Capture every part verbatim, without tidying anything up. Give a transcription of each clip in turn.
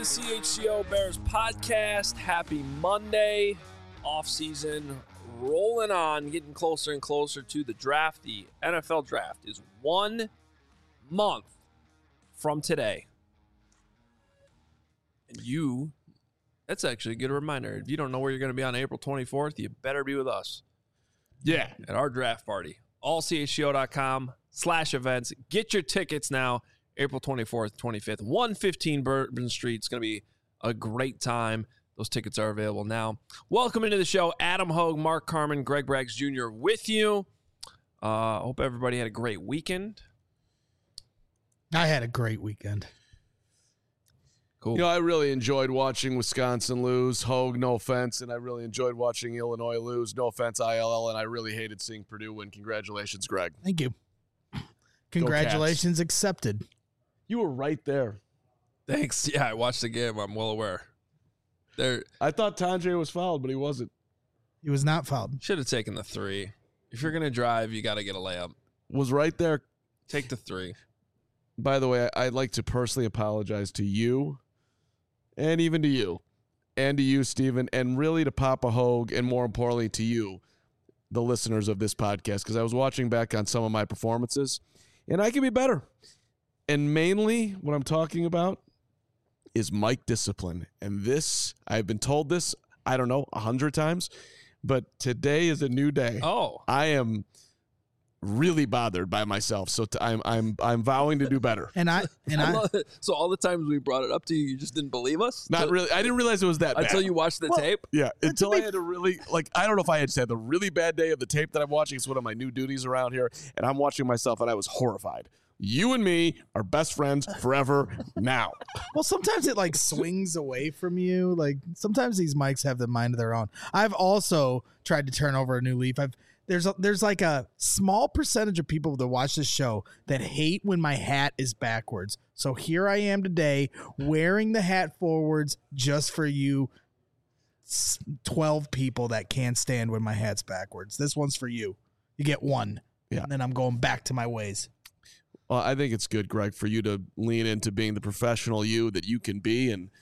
C H C O Bears podcast. Happy Monday. Off season rolling on, getting closer and closer to the draft. The N F L draft is one month from today. And you, that's actually a good reminder. If you don't know where you're going to be on April twenty-fourth, you better be with us. Yeah. At our draft party. all c h c o dot com slash events. Get your tickets now. April twenty-fourth, twenty-fifth, one fifteen Bourbon Street. It's going to be a great time. Those tickets are available now. Welcome into the show. Adam Hogue, Mark Carman, Greg Braggs Junior with you. I uh, hope everybody had a great weekend. I had a great weekend. Cool. You know, I really enjoyed watching Wisconsin lose. Hogue, no offense. And I really enjoyed watching Illinois lose. No offense, I L L. And I really hated seeing Purdue win. Congratulations, Greg. Thank you. Congratulations accepted. You were right there. Thanks. Yeah, I watched the game. I'm well aware. There, I thought Tandre was fouled, but he wasn't. He was not fouled. Should have taken the three. If you're going to drive, you got to get a layup. Was right there. Take the three. By the way, I'd like to personally apologize to you and even to you and to you, Steven, and really to Papa Hogue, and more importantly to you, the listeners of this podcast, because I was watching back on some of my performances, and I can be better. And mainly what I'm talking about is mic discipline. And this, I've been told this, I don't know, a hundred times, but today is a new day. Oh. I am really bothered by myself, so t- I'm I'm I'm vowing to do better. And I and I I, love it. So all the times we brought it up to you, you just didn't believe us? Not Till- really. I didn't realize it was that bad. Until you watched the Well, tape? Yeah, until be- I had a really, like, I don't know if I had just had the really bad day of the tape that I'm watching. It's one of my new duties around here, and I'm watching myself, and I was horrified. You and me are best friends forever now. well, sometimes it like swings away from you. Like sometimes these mics have the mind of their own. I've also tried to turn over a new leaf. I've there's a, there's like a small percentage of people that watch this show that hate when my hat is backwards. So here I am today wearing the hat forwards just for you twelve people that can't stand when my hat's backwards. This one's for you. You get one. Yeah. And then I'm going back to my ways. Well, I think it's good, Greg, for you to lean into being the professional you that you can be, and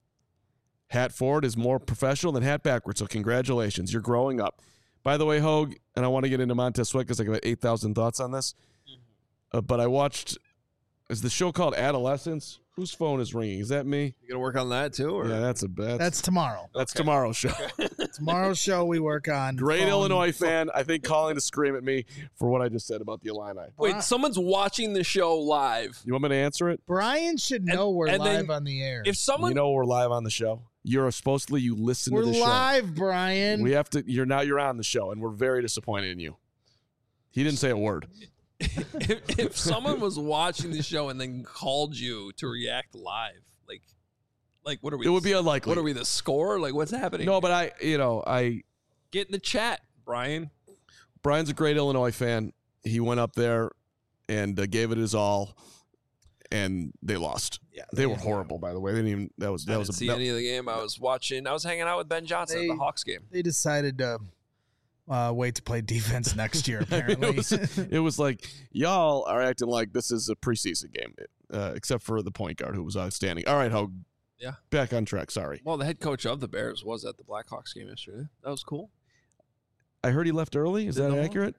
hat forward is more professional than hat backwards, so congratulations. You're growing up. By the way, Hogue, and I want to get into Montez Sweat because I got eight thousand thoughts on this, uh, but I watched, is the show called Adolescence? Whose phone is ringing? Is that me? You going to work on that too? Or? Yeah, that's a bad. That's tomorrow. That's tomorrow's show. Tomorrow's show we work on. Great phone. Illinois fan, I think, calling to scream at me for what I just said about the Illini. Wait, someone's watching the show live. You want me to answer it? Brian should know And- we're and then live on the air. If someone You know we're live on the show. You're supposedly you listen we're to the live, show. Brian. We have to. You're now. You're on the show, and we're very disappointed in you. He didn't say a word. if, if someone was watching the show and then called you to react live, like, like what are we? It would be unlikely. What are we? The score? Like, what's happening? No, but I. You know, I. Get in the chat, Brian. Brian's a great Illinois fan. He went up there and uh, gave it his all, and they lost. Yeah, they were horrible. By the way, they didn't even. That was that I was didn't a. see that- any of the game. I was watching. I was hanging out with Ben Johnson They- at the Hawks game. They decided to uh, wait to play defense next year, apparently. it, was, it was like y'all are acting like this is a preseason game, uh, except for the point guard who was outstanding. All right, Hogue. Yeah. Back on track. Sorry. Well, the head coach of the Bears was at the Blackhawks game yesterday. That was cool. I heard he left early. Is Did that no one? accurate?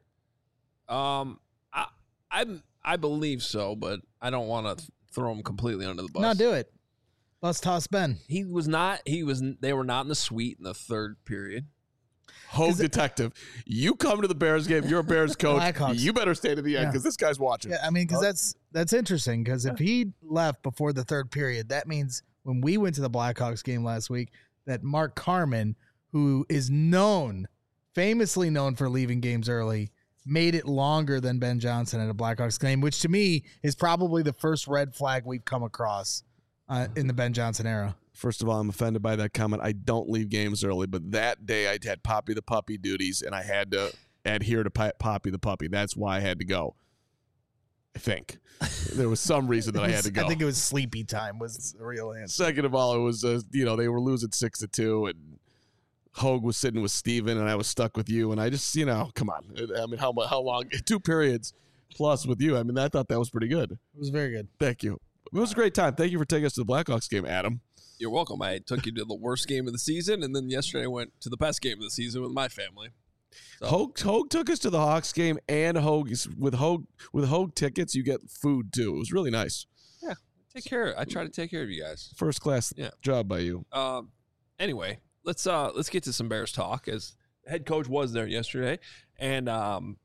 Um, I I I believe so, but I don't want to throw him completely under the bus. no, do it. Let's toss Ben. He was not. He was. They were not in the suite in the third period. Hogue detective. You come to the Bears game. You're a Bears coach. Blackhawks. You better stay to the end Yeah. because this guy's watching. Yeah, I mean, because that's that's interesting. Because if he left before the third period, that means when we went to the Blackhawks game last week, that Mark Carman, who is known, famously known for leaving games early, made it longer than Ben Johnson at a Blackhawks game, which to me is probably the first red flag we've come across uh, in the Ben Johnson era. First of all, I'm offended by that comment. I don't leave games early, but that day I had Poppy the Puppy duties, and I had to adhere to P- Poppy the Puppy. That's why I had to go. I think there was some reason that I had to go. I think it was sleepy time was the real answer. Second of all, it was uh, you know they were losing six to two, and Hogue was sitting with Steven, and I was stuck with you, and I just you know come on. I mean, how mu- how long? Two periods plus with you. I mean, I thought that was pretty good. It was very good. Thank you. It was a great time. Thank you for taking us to the Blackhawks game, Adam. You're welcome. I took you to the worst game of the season, and then yesterday I went to the best game of the season with my family. So. Hogue, Hogue took us to the Hawks game, and Hogue with Hogue with Hogue tickets, you get food too. It was really nice. Yeah, take care. I try to take care of you guys. First class yeah. job by you. Um. Anyway, let's uh let's get to some Bears talk. As the head coach was there yesterday, and um,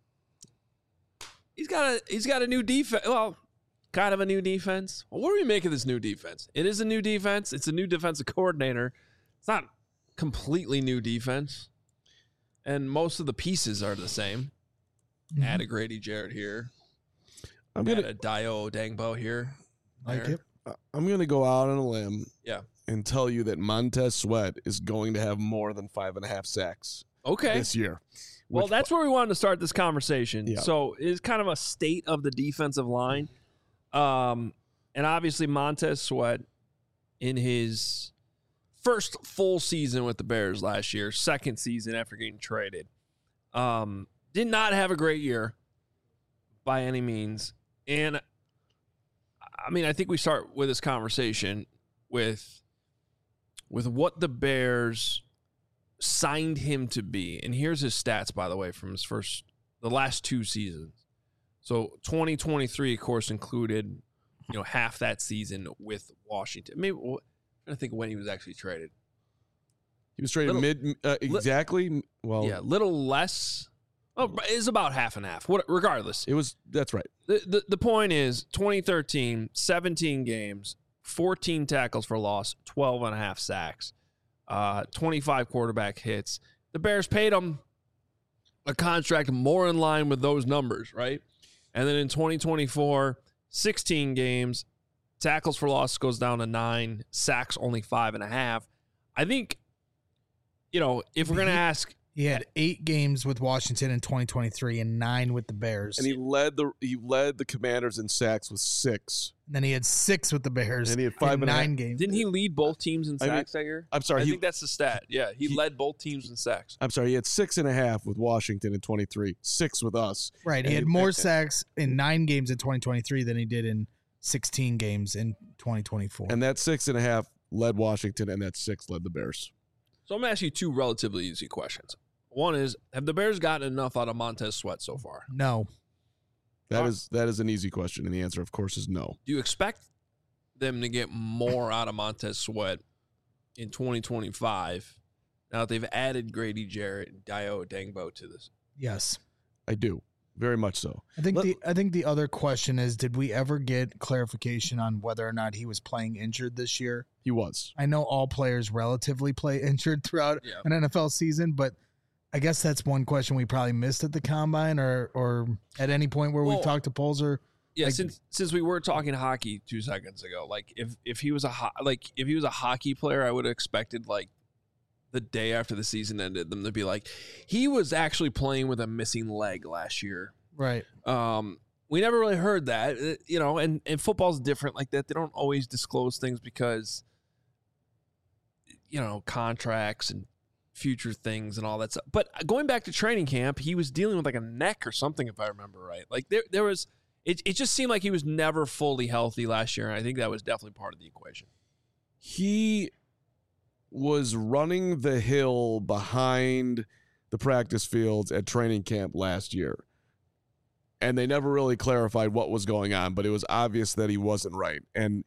he's got a he's got a new defense. Well. Kind of a new defense. Well, what do we make of this new defense? It is a new defense. It's a new defensive coordinator. It's not completely new defense. And most of the pieces are the same. Mm-hmm. Add a Grady Jarrett here. I'm gonna add a Dio Dangbo here. Like it. I'm gonna go out on a limb. Yeah. And tell you that Montez Sweat is going to have more than five and a half sacks. Okay. This year. Well, that's where we wanted to start this conversation. Yeah. So it's kind of a state of the defensive line. Um, and obviously Montez Sweat in his first full season with the Bears last year, second season after getting traded, um, did not have a great year by any means. And I mean, I think we start with this conversation with, with what the Bears signed him to be. And here's his stats, by the way, from his first, the last two seasons. So twenty twenty-three, of course, included, you know, half that season with Washington. Maybe I'm trying to think when he was actually traded. He was traded little, mid uh, exactly. Li- well, yeah, little less. Oh, it's about half and half. What, regardless, it was. That's right. The, the the point is, twenty thirteen, seventeen games, fourteen tackles for loss, twelve and a half sacks, uh, twenty-five quarterback hits. The Bears paid him a contract more in line with those numbers, right? And then in twenty twenty-four, sixteen games, tackles for loss goes down to nine, sacks only five and a half. I think, you know, if we're going to ask. He had eight games with Washington in twenty twenty-three and nine with the Bears. And he led the he led the Commanders in sacks with six. And then he had six with the Bears. And he had five in and nine a, games. Didn't he lead both teams in sacks I mean, that year? I'm sorry. I he, think that's the stat. Yeah, he, he led both teams in sacks. I'm sorry. He had six and a half with Washington in twenty-three, six with us. Right. He had more and, sacks in nine games in twenty twenty-three than he did in sixteen games in twenty twenty-four. And that six and a half led Washington, and that six led the Bears. So I'm going to ask you two relatively easy questions. One is, have the Bears gotten enough out of Montez Sweat so far? No. That is that is an easy question, and the answer, of course, is no. Do you expect them to get more out of Montez Sweat in twenty twenty-five now that they've added Grady Jarrett and Dio Dangbo to this? Yes. I do. Very much so. I think Let, the I think the other question is, did we ever get clarification on whether or not he was playing injured this year? He was. I know all players relatively play injured throughout yeah. an N F L season, but I guess that's one question we probably missed at the combine or or at any point where well, we talked to Polzer. Yeah, like, since since we were talking hockey two seconds ago, like if if he was a ho- like if he was a hockey player, I would have expected like the day after the season ended them to be like, he was actually playing with a missing leg last year. Right. Um, we never really heard that, you know, and and football's different like that. They don't always disclose things because, you know, contracts and future things and all that stuff. But going back to training camp, he was dealing with like a neck or something, if I remember right. Like there, there was, it, it just seemed like he was never fully healthy last year. And I think that was definitely part of the equation. He was running the hill behind the practice fields at training camp last year. And they never really clarified what was going on, but it was obvious that he wasn't right. And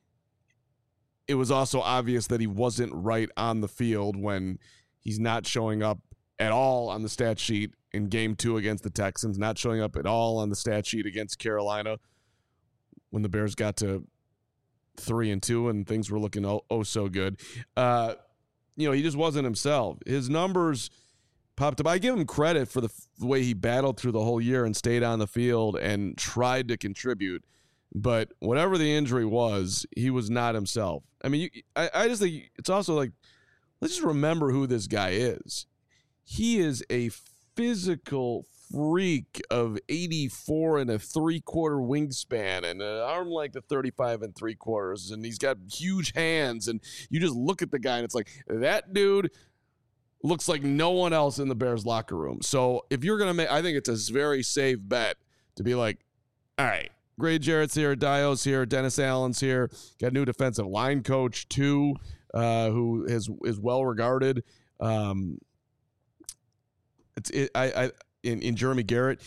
it was also obvious that he wasn't right on the field when he's not showing up at all on the stat sheet in game two against the Texans, not showing up at all on the stat sheet against Carolina when the Bears got to three and two and things were looking oh, oh so good. Uh, you know, he just wasn't himself. His numbers popped up. I give him credit for the, f- the way he battled through the whole year and stayed on the field and tried to contribute. But whatever the injury was, he was not himself. I mean, you, I, I just think it's also like, let's just remember who this guy is. He is a physical freak of eighty-four and a three-quarter wingspan and an arm length of thirty-five and three quarters, and he's got huge hands, and you just look at the guy, and it's like, that dude looks like no one else in the Bears locker room. So if you're going to make, I think it's a very safe bet to be like, all right, Grady Jarrett's here, Dio's here, Dennis Allen's here, got a new defensive line coach too. uh, who is is well regarded. Um, it's it, I I in, in Jeremy Garrett,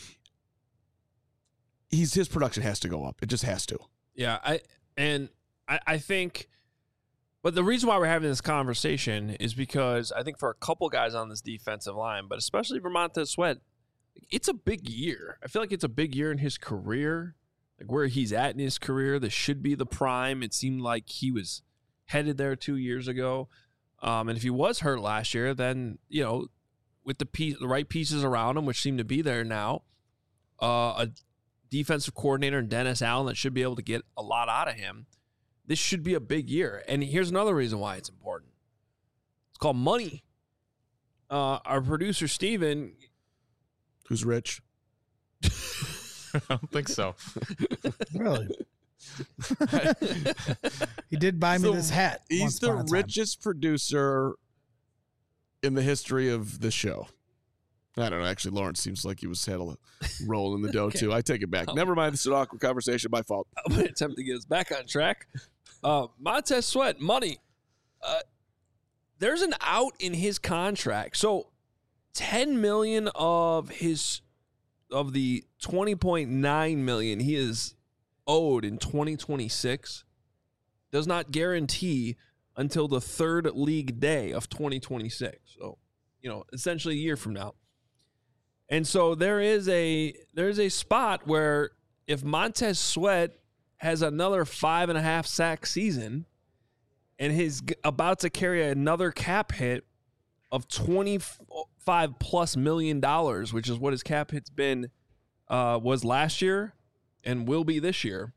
he's his production has to go up. It just has to. Yeah, I and I, I think, but the reason why we're having this conversation is because I think for a couple guys on this defensive line, but especially for Montez Sweat, it's a big year. I feel like it's a big year in his career, like where he's at in his career. This should be the prime. It seemed like he was headed there two years ago, um, and if he was hurt last year, then you know, with the piece, the right pieces around him, which seem to be there now, uh, a defensive coordinator and Dennis Allen that should be able to get a lot out of him. This should be a big year. And here's another reason why it's important. It's called money. Uh, our producer, Steven. Who's rich? I don't think so. Really? He did buy me So this hat. He's once the upon a time. richest producer in the history of the show. I don't know. Actually, Lawrence seems like he was had a roll in the dough, Okay. too. I take it back. Never mind. This is an awkward conversation. My fault. I'm going to attempt to get us back on track. Uh, Montez Sweat, money. Uh, there's an out in his contract. So ten million dollars of his of the twenty point nine million dollars he is owed in twenty twenty-six does not guarantee until the third league day of twenty twenty-six. So, you know, essentially a year from now. And so there is a there's a spot where if Montez Sweat has another five and a half sack season and he's g- about to carry another cap hit of twenty-five plus million dollars, which is what his cap hit's been uh, was last year and will be this year,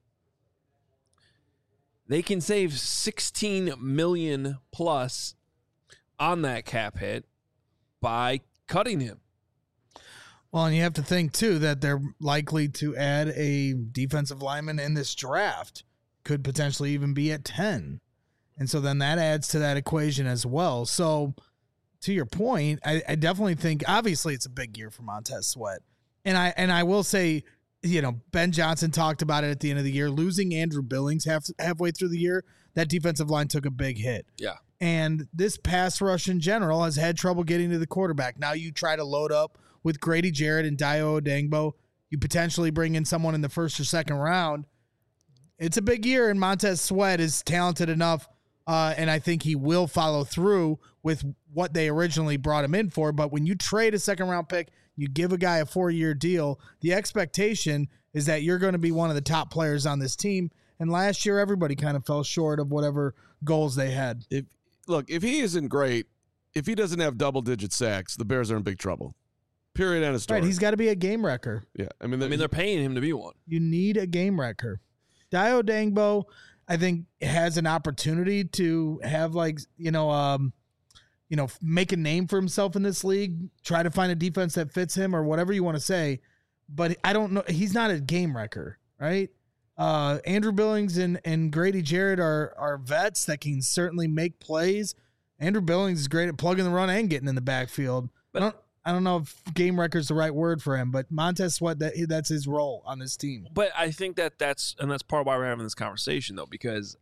they can save sixteen million plus on that cap hit by cutting him. Well, and you have to think, too, that they're likely to add a defensive lineman in this draft. Could potentially even be at ten. And so then that adds to that equation as well. So to your point, I, I definitely think, obviously, it's a big year for Montez Sweat. And I and I will say, you know, Ben Johnson talked about it at the end of the year. Losing Andrew Billings half, halfway through the year, that defensive line took a big hit. Yeah. And this pass rush in general has had trouble getting to the quarterback. Now you try to load up with Grady Jarrett and Dio Odengbo. You potentially bring in someone in the first or second round. It's a big year, and Montez Sweat is talented enough, uh, and I think he will follow through with what they originally brought him in for. But when you trade a second-round pick, you give a guy a four-year deal, the expectation is that you're going to be one of the top players on this team. And last year, everybody kind of fell short of whatever goals they had. If Look, if he isn't great, if he doesn't have double-digit sacks, the Bears are in big trouble. Period. End of story. Right, he's got to be a game wrecker. yeah, I mean, I mean, they're paying him to be one. You need a game wrecker. Dio Dangbo, I think, has an opportunity to have, like, you know, um, you know, make a name for himself in this league, try to find a defense that fits him or whatever you want to say. But I don't know. He's not a game wrecker, right? Uh, Andrew Billings and, and Grady Jarrett are, are vets that can certainly make plays. Andrew Billings is great at plugging the run and getting in the backfield. But I don't, I don't know if game wrecker is the right word for him, but Montez Sweat, that that's his role on this team. But I think that that's, and that's part of why we're having this conversation, though, because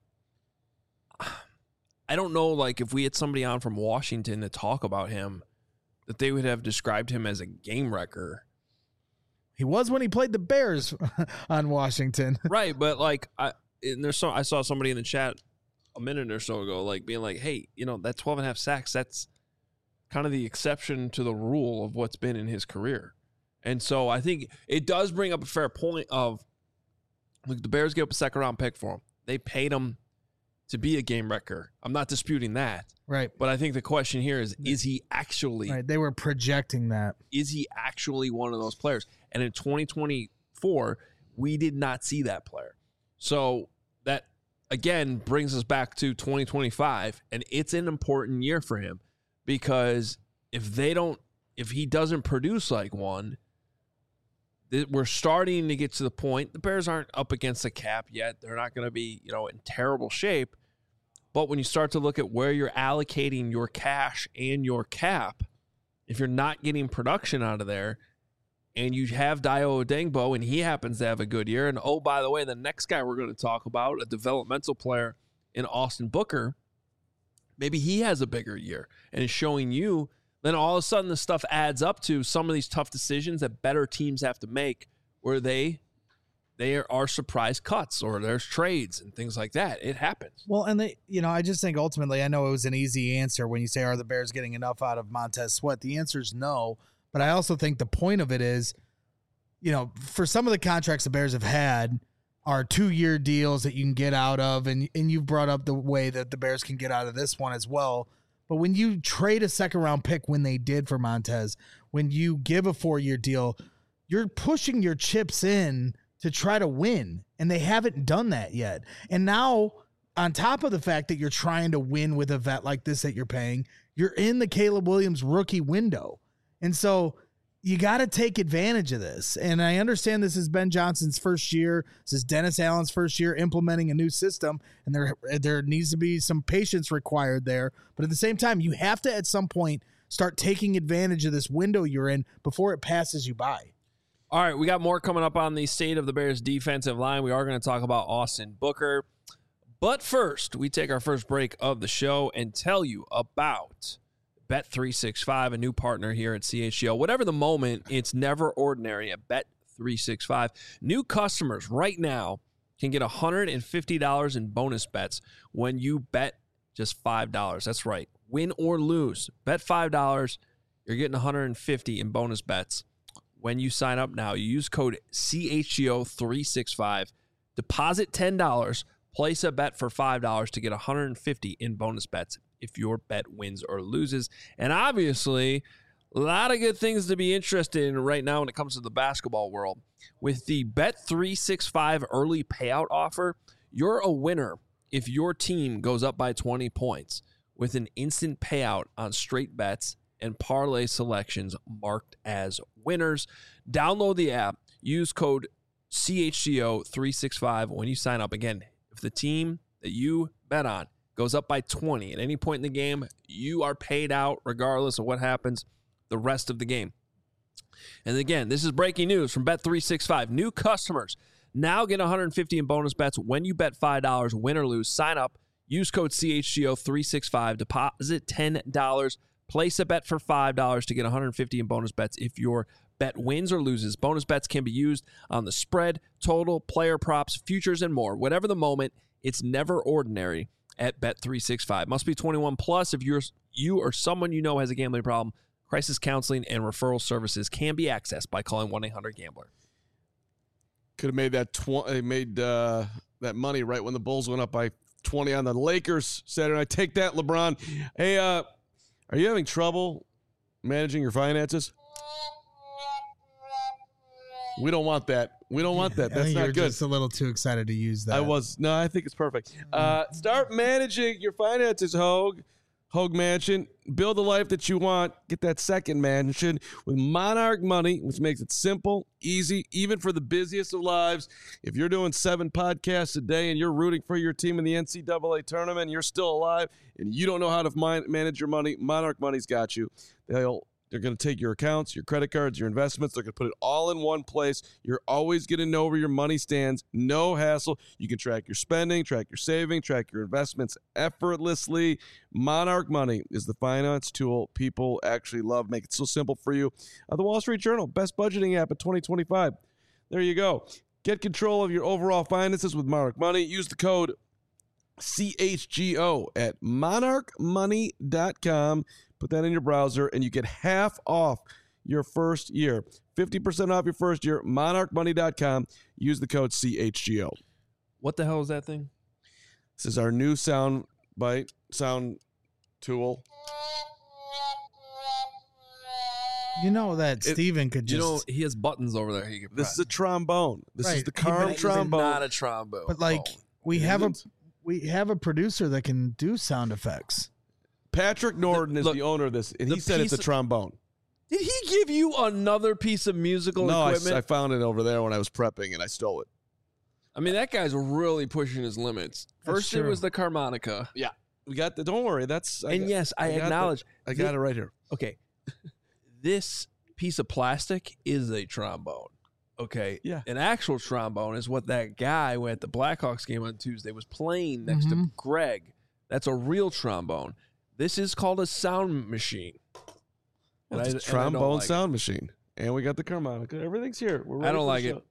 I don't know, like, if we had somebody on from Washington to talk about him, that they would have described him as a game wrecker. He was when he played the Bears on Washington. Right, but, like, I and there's so I saw somebody in the chat a minute or so ago, like, being like, hey, you know, that twelve and a half sacks, that's kind of the exception to the rule of what's been in his career. And so I think it does bring up a fair point of, look, the Bears gave up a second round pick for him. They paid him to be a game wrecker. I'm not disputing that. Right. But I think the question here is, is he actually, Right. They were projecting that. is he actually one of those players? And in twenty twenty-four, we did not see that player. So that, again, brings us back to twenty twenty-five, and it's an important year for him. Because if they don't, if he doesn't produce like one, th- we're starting to get to the point. The Bears aren't up against the cap yet. They're not going to be, you know, in terrible shape. But when you start to look at where you're allocating your cash and your cap, if you're not getting production out of there, and you have Dio Odengbo, and he happens to have a good year, and oh, by the way, the next guy we're going to talk about, a developmental player in Austin Booker, maybe he has a bigger year and is showing you. Then all of a sudden the stuff adds up to some of these tough decisions that better teams have to make where they they are surprise cuts or there's trades and things like that. It happens. Well, and they, you know, I just think ultimately, I know it was an easy answer when you say, are the Bears getting enough out of Montez Sweat? The answer is no. But I also think the point of it is, you know, for some of the contracts the Bears have had are two-year deals that you can get out of, and and you've brought up the way that the Bears can get out of this one as well. But when you trade a second-round pick when they did for Montez, when you give a four-year deal, you're pushing your chips in to try to win, and they haven't done that yet. And now, on top of the fact that you're trying to win with a vet like this that you're paying, you're in the Caleb Williams rookie window. And so you got to take advantage of this. And I understand this is Ben Johnson's first year. This is Dennis Allen's first year implementing a new system, and there there needs to be some patience required there. But at the same time, you have to at some point start taking advantage of this window you're in before it passes you by. All right, we got more coming up on the state of the Bears defensive line. We are going to talk about Austin Booker. But first, we take our first break of the show and tell you about Bet three sixty-five, a new partner here at C H G O. Whatever the moment, it's never ordinary at Bet three sixty-five. New customers right now can get one hundred fifty dollars in bonus bets when you bet just five dollars. That's right. Win or lose. Bet five dollars, you're getting one hundred fifty dollars in bonus bets when you sign up now. You use code C H G O three sixty-five. Deposit ten dollars. Place a bet for five dollars to get one hundred fifty dollars in bonus bets if your bet wins or loses. And obviously, a lot of good things to be interested in right now when it comes to the basketball world. With the Bet three sixty-five early payout offer, you're a winner if your team goes up by twenty points with an instant payout on straight bets and parlay selections marked as winners. Download the app. Use code C H G O three sixty-five when you sign up. Again, if the team that you bet on goes up by twenty at any point in the game, you are paid out regardless of what happens the rest of the game. And again, this is breaking news from Bet three sixty-five. New customers now get one hundred fifty dollars in bonus bets when you bet five dollars, win or lose. Sign up, use code C H G O three sixty-five, deposit ten dollars, place a bet for five dollars to get one hundred fifty dollars in bonus bets if your bet wins or loses. Bonus bets can be used on the spread, total, player props, futures, and more. Whatever the moment, it's never ordinary at Bet three sixty-five. Must be twenty-one plus if you're you or someone you know has a gambling problem. Crisis counseling and referral services can be accessed by calling one eight hundred gambler. Could have made that tw- made uh, that money right when the Bulls went up by twenty on the Lakers Saturday night. Take that, LeBron. Hey, uh, are you having trouble managing your finances? We don't want that. We don't want that. I That's think not you're good. just a little too excited to use that. I was. No, I think it's perfect. Uh, start managing your finances, Hogue. Hogue Mansion. Build the life that you want. Get that second mansion with Monarch Money, which makes it simple, easy, even for the busiest of lives. If you're doing seven podcasts a day and you're rooting for your team in the N C double A tournament and you're still alive and you don't know how to man- manage your money, Monarch Money's got you. They'll They're going to take your accounts, your credit cards, your investments. They're going to put it all in one place. You're always going to know where your money stands. No hassle. You can track your spending, track your saving, track your investments effortlessly. Monarch Money is the finance tool people actually love. Make it so simple for you. Uh, the Wall Street Journal, best budgeting app of twenty twenty-five. There you go. Get control of your overall finances with Monarch Money. Use the code C H G O at monarch money dot com. Put that in your browser, and you get half off your first year. fifty percent off your first year, monarch money dot com. Use the code C H G O. What the hell is that thing? This is our new sound bite, sound tool. You know that It- Steven could You just, know, he has buttons over there he can This press. is a trombone. This is Right. the He Carm makes it trombone. not a trombone. but like Oh. we It have a isn't. we have a producer that can do sound effects. Patrick Norton is look, the owner of this, and the he said it's a piece of- trombone. Did he give you another piece of musical No, I, equipment? I found it over there when I was prepping, and I stole it. I mean, that guy's really pushing his limits. First, it true. was the harmonica. We got the. Don't worry, that's. I And got- yes, I, got the- acknowledge. I got thi- it right here. Okay. This piece of plastic is a trombone. Okay. Yeah. An actual trombone is what that guy at the Blackhawks game on Tuesday was playing next Mhm. to Greg. That's a real trombone. This is called a sound machine. Well, And it's I- a and I trombone don't like sound machine. And we got the harmonica. Everything's here. We're I ready don't for like the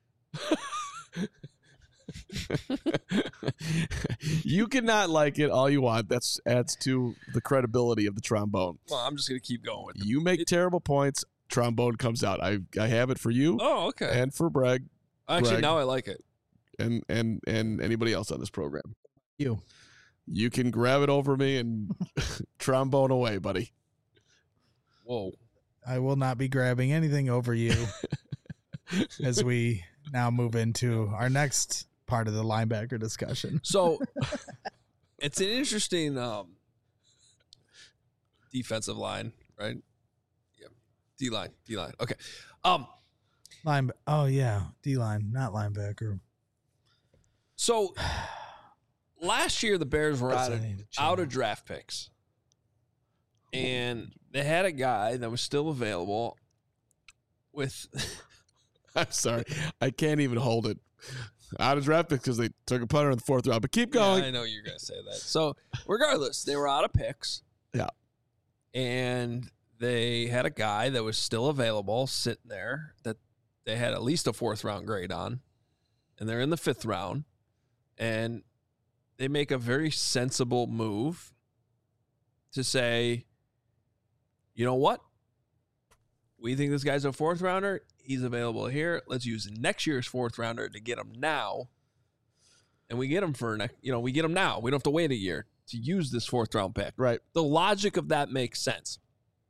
show. You cannot like it all you want. That's adds to the credibility of the trombone. Well, I'm just gonna keep going with it. You make It- terrible points, trombone comes out. I I have it for you Oh, okay. and for Bragg Actually, Greg. now I like it. and and and anybody else on this program. You. You can grab it over me and trombone away, buddy. Whoa. I will not be grabbing anything over you as we now move into our next part of the linebacker discussion. So it's an interesting um, defensive line, right? Yeah, D line, D line. Okay. Um. Line. Oh yeah, D line, not linebacker. So last year the Bears were out of, I need to chill. out of draft picks, and they had a guy that was still available. With I'm sorry. I can't even hold it. Out of draft picks because they took a punter in the fourth round. But keep going. Yeah, I know you're gonna say that. So regardless, they were out of picks. Yeah. And they had a guy that was still available sitting there that they had at least a fourth round grade on. And they're in the fifth round. And they make a very sensible move to say, you know what? We think this guy's a fourth rounder. He's available here. Let's use next year's fourth rounder to get him now. And we get him for next, you know, we get him now. We don't have to wait a year to use this fourth round pick. Right. The logic of that makes sense.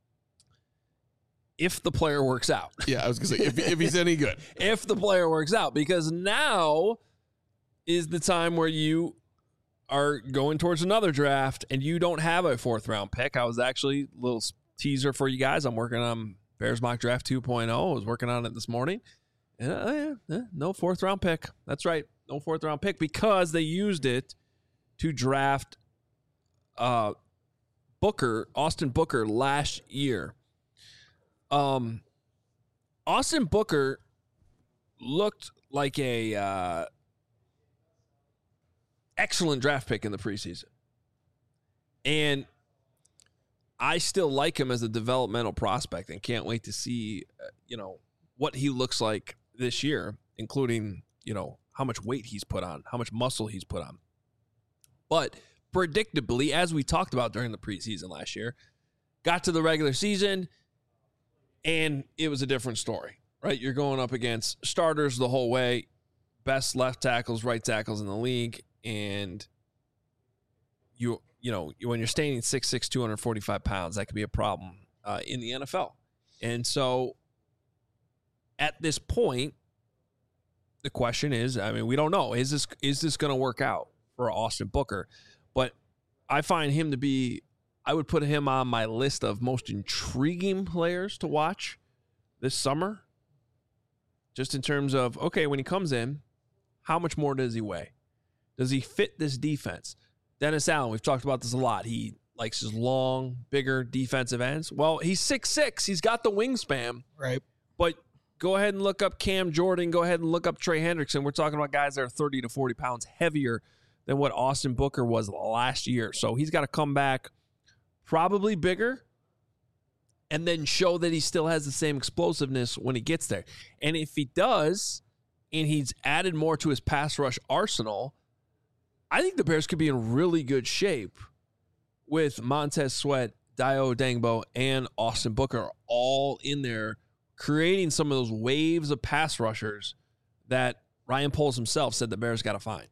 If the player works out. Yeah, I was going to say, if, if he's any good. If the player works out, because now is the time where you are going towards another draft and you don't have a fourth round pick. I was actually a little teaser for you guys. I'm working on Bears Mock Draft two point oh. I was working on it this morning. And, uh, yeah, yeah, no fourth round pick. That's right. No fourth round pick because they used it to draft uh, Booker, Austin Booker last year. Um, Austin Booker looked like a uh, excellent draft pick in the preseason. And I still like him as a developmental prospect and can't wait to see, uh, you know, what he looks like this year, including, you know, how much weight he's put on, how much muscle he's put on. But predictably, as we talked about during the preseason last year, got to the regular season and it was a different story, right? You're going up against starters the whole way, best left tackles, right tackles in the league, and you you know, when you're standing six six, two hundred forty-five pounds, that could be a problem uh, in the N F L. And so at this point, the question is, I mean, we don't know. Is this is this going to work out for Austin Booker? But I find him to be, I would put him on my list of most intriguing players to watch this summer. Just in terms of, okay, when he comes in, how much more does he weigh? Does he fit this defense? Dennis Allen, we've talked about this a lot. He likes his long, bigger defensive ends. Well, he's six six. He's got the wingspan. Right. But go ahead and look up Cam Jordan. Go ahead and look up Trey Hendrickson. We're talking about guys that are thirty to forty pounds heavier than what Austin Booker was last year. So he's got to come back probably bigger and then show that he still has the same explosiveness when he gets there. And if he does, and he's added more to his pass rush arsenal, I think the Bears could be in really good shape with Montez Sweat, Dayo Dangbo, and Austin Booker all in there, creating some of those waves of pass rushers that Ryan Poles himself said the Bears got to find.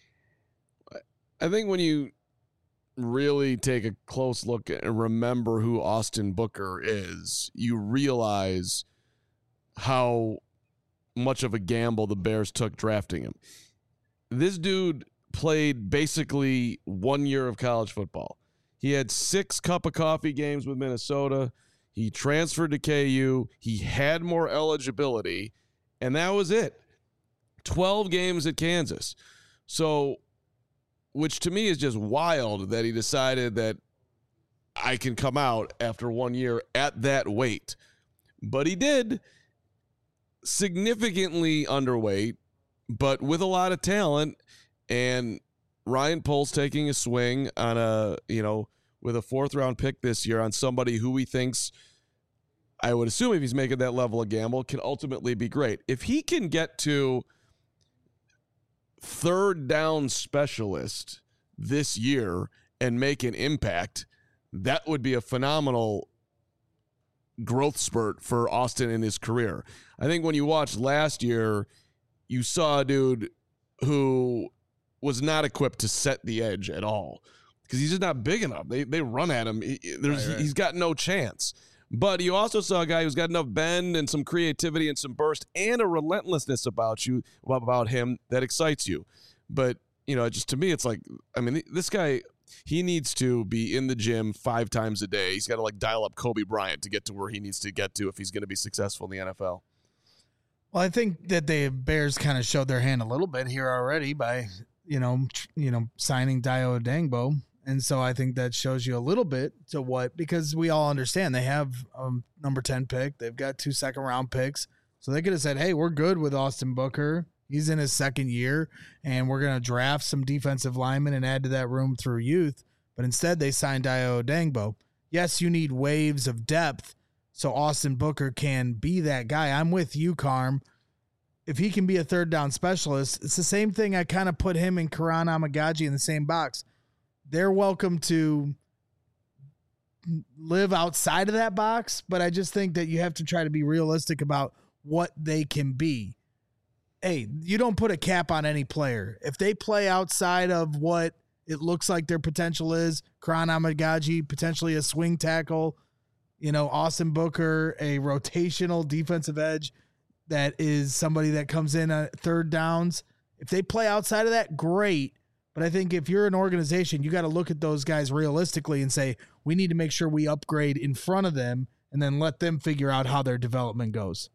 I think when you really take a close look and remember who Austin Booker is, you realize how much of a gamble the Bears took drafting him. This dude played basically one year of college football. He had six cup of coffee games with Minnesota. He transferred to K U. He had more eligibility, and that was it. twelve games at Kansas. So, which to me is just wild that he decided that I can come out after one year at that weight. But he did. Significantly underweight, but with a lot of talent. And Ryan Poles taking a swing on a, you know, with a fourth round pick this year on somebody who he thinks, I would assume if he's making that level of gamble, can ultimately be great. If he can get to third down specialist this year and make an impact, that would be a phenomenal growth spurt for Austin in his career. I think when you watched last year, you saw a dude who was not equipped to set the edge at all because he's just not big enough. They they run at him. He, there's, right, right. He's got no chance. But you also saw a guy who's got enough bend and some creativity and some burst and a relentlessness about you, about him that excites you. But, you know, just to me, it's like, I mean, this guy, he needs to be in the gym five times a day. He's got to, like, dial up Kobe Bryant to get to where he needs to get to if he's going to be successful in the N F L. Well, I think that the Bears kind of showed their hand a little bit here already by, you know, tr- you know, signing Dayo Odeyingbo. And so I think that shows you a little bit to what, because we all understand they have a number ten pick. They've got two second round picks. So they could have said, hey, we're good with Austin Booker. He's in his second year, and we're going to draft some defensive linemen and add to that room through youth. But instead, they signed Dayo Odeyingbo. Yes, you need waves of depth so Austin Booker can be that guy. I'm with you, Carm. If he can be a third down specialist, it's the same thing. I kind of put him and Karan Amagaji in the same box. They're welcome to live outside of that box, but I just think that you have to try to be realistic about what they can be. Hey, you don't put a cap on any player. If they play outside of what it looks like their potential is, Karan Amagaji, potentially a swing tackle, you know, Austin Booker, a rotational defensive edge that is somebody that comes in at third downs. If they play outside of that, great. But I think if you're an organization, you got to look at those guys realistically and say, we need to make sure we upgrade in front of them and then let them figure out how their development goes.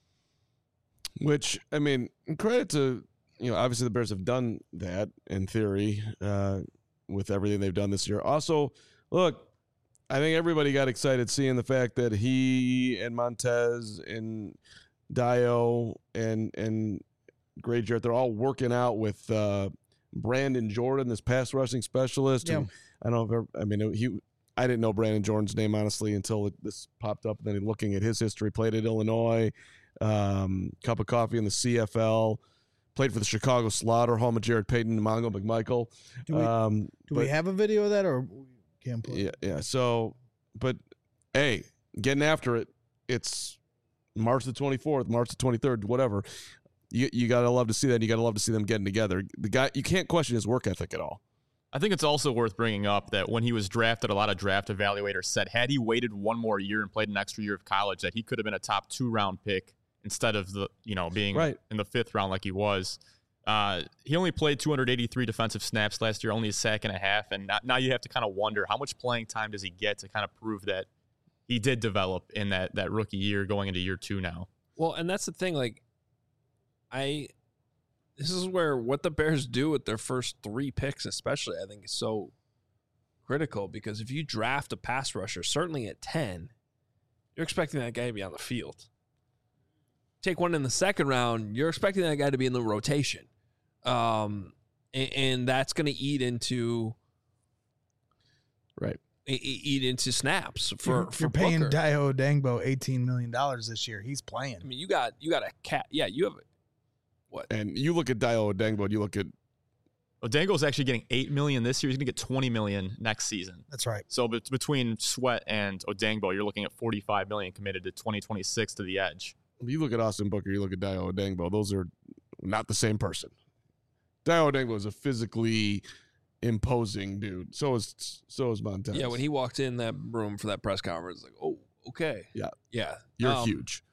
Which, I mean, credit to, you know, obviously the Bears have done that in theory uh, with everything they've done this year. Also, look, I think everybody got excited seeing the fact that he and Montez and Dayo and, and Gray Jarrett, they're all working out with uh, – Brandon Jordan, this pass rushing specialist. Yeah. Who, I don't know if I mean he. I didn't know Brandon Jordan's name honestly until it, this popped up. And then looking at his history, played at Illinois, um, cup of coffee in the C F L, played for the Chicago Slaughter, home of Jared Payton and Mongo McMichael. Do we, um, do but, we have a video of that or can't play? Yeah, yeah. So, but hey, getting after it. It's March the twenty-fourth, March the twenty-third, whatever. You you gotta love to see that. And you gotta love to see them getting together. The guy, you can't question his work ethic at all. I think it's also worth bringing up that when he was drafted, a lot of draft evaluators said had he waited one more year and played an extra year of college, that he could have been a top two round pick instead of the you know being right in the fifth round like he was. Uh, he only played two hundred eighty-three defensive snaps last year, only a sack and a half, and not, now you have to kind of wonder how much playing time does he get to kind of prove that he did develop in that that rookie year going into year two now. Well, and that's the thing, like. I, this is where what the Bears do with their first three picks, especially, I think is so critical because if you draft a pass rusher, certainly at ten, you're expecting that guy to be on the field. Take one in the second round, you're expecting that guy to be in the rotation. Um, and, and that's going to eat into, right. eat into snaps for, you're, for you're paying Booker. Dayo Odeyingbo eighteen million dollars this year. He's playing. I mean, you got, you got a cat. Yeah. You have what? And you look at Dayo Odeyingbo, you look at Odeyingbo's actually getting eight million dollars this year. He's going to get twenty million dollars next season. That's right. So be- between Sweat and Odeyingbo, you're looking at forty-five million dollars committed to twenty twenty-six to the edge. You look at Austin Booker, you look at Dayo Odeyingbo. Those are not the same person. Dayo Odeyingbo is a physically imposing dude. So is so is Montez. Yeah, when he walked in that room for that press conference, like, oh, okay. Yeah. Yeah. You're Um, huge.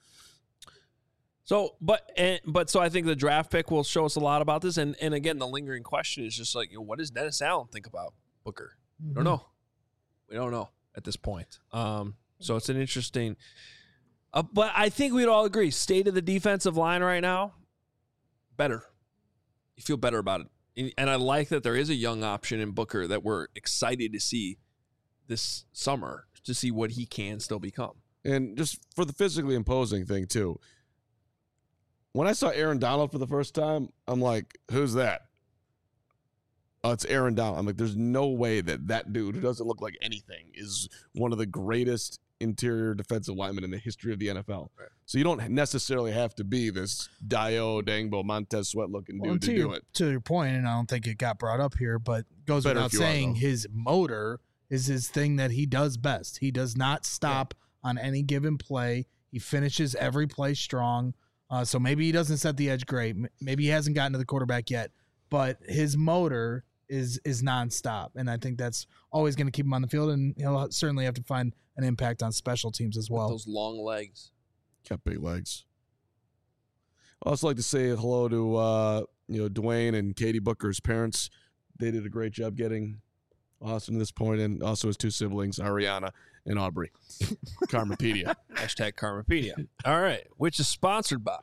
So, but and, but so I think the draft pick will show us a lot about this. And and again, the lingering question is just like, you know, what does Dennis Allen think about Booker? Mm-hmm. We don't know. We don't know at this point. Um, so it's an interesting. Uh, but I think we'd all agree, state of the defensive line right now, better. You feel better about it, and, and I like that there is a young option in Booker that we're excited to see this summer to see what he can still become. And just for the physically imposing thing too. When I saw Aaron Donald for the first time, I'm like, who's that? oh, it's Aaron Donald. I'm like, there's no way that that dude who doesn't look like anything is one of the greatest interior defensive linemen in the history of the N F L. Right. So you don't necessarily have to be this Dio, Dangbo, Montez Sweat looking well, dude to, to your, do it. To your point, and I don't think it got brought up here, but goes Better without saying, are, his motor is his thing that he does best. He does not stop yeah. on any given play. He finishes every play strong. Uh, so maybe he doesn't set the edge great. Maybe he hasn't gotten to the quarterback yet, but his motor is is nonstop, and I think that's always going to keep him on the field, and he'll certainly have to find an impact on special teams as well. With those long legs. Got big legs. I also like to say hello to uh, you know Dwayne and Katie Booker's parents. They did a great job getting Austin to this point, and also his two siblings, Ariana and Aubrey. Karmapedia. Hashtag Karmapedia. All right, which is sponsored by.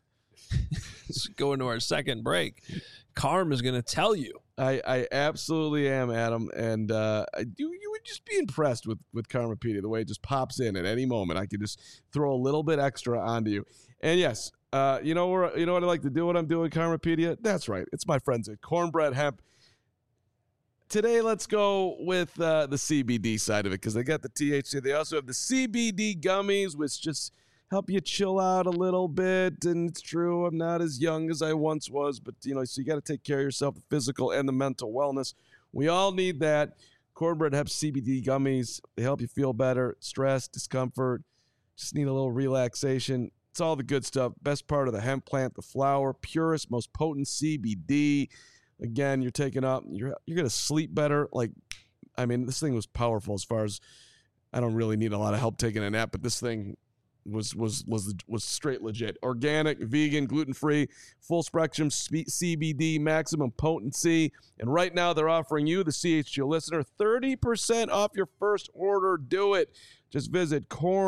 Let's go into our second break. Carm is going to tell you. I, I absolutely am, Adam, and uh, I do. You would just be impressed with with Karmapedia, the way it just pops in at any moment. I could just throw a little bit extra onto you. And yes, uh, you know where you know what I like to do when I'm doing Karmapedia? That's right. It's my friends at Cornbread Hemp. Today, let's go with uh, the C B D side of it because they got the T H C. They also have the C B D gummies, which just help you chill out a little bit. And it's true, I'm not as young as I once was, but, you know, so you got to take care of yourself, the physical and the mental wellness. We all need that. Cornbread Hemp C B D gummies, they help you feel better, stress, discomfort, just need a little relaxation. It's all the good stuff. Best part of the hemp plant, the flower, purest, most potent C B D. Again, you're taking up, you're you're going to sleep better. Like, I mean, this thing was powerful as far as I don't really need a lot of help taking a nap, but this thing was was was was straight legit. Organic, vegan, gluten-free, full spectrum C B D, maximum potency. And right now they're offering you, the C H G O listener, thirty percent off your first order. Do it. Just visit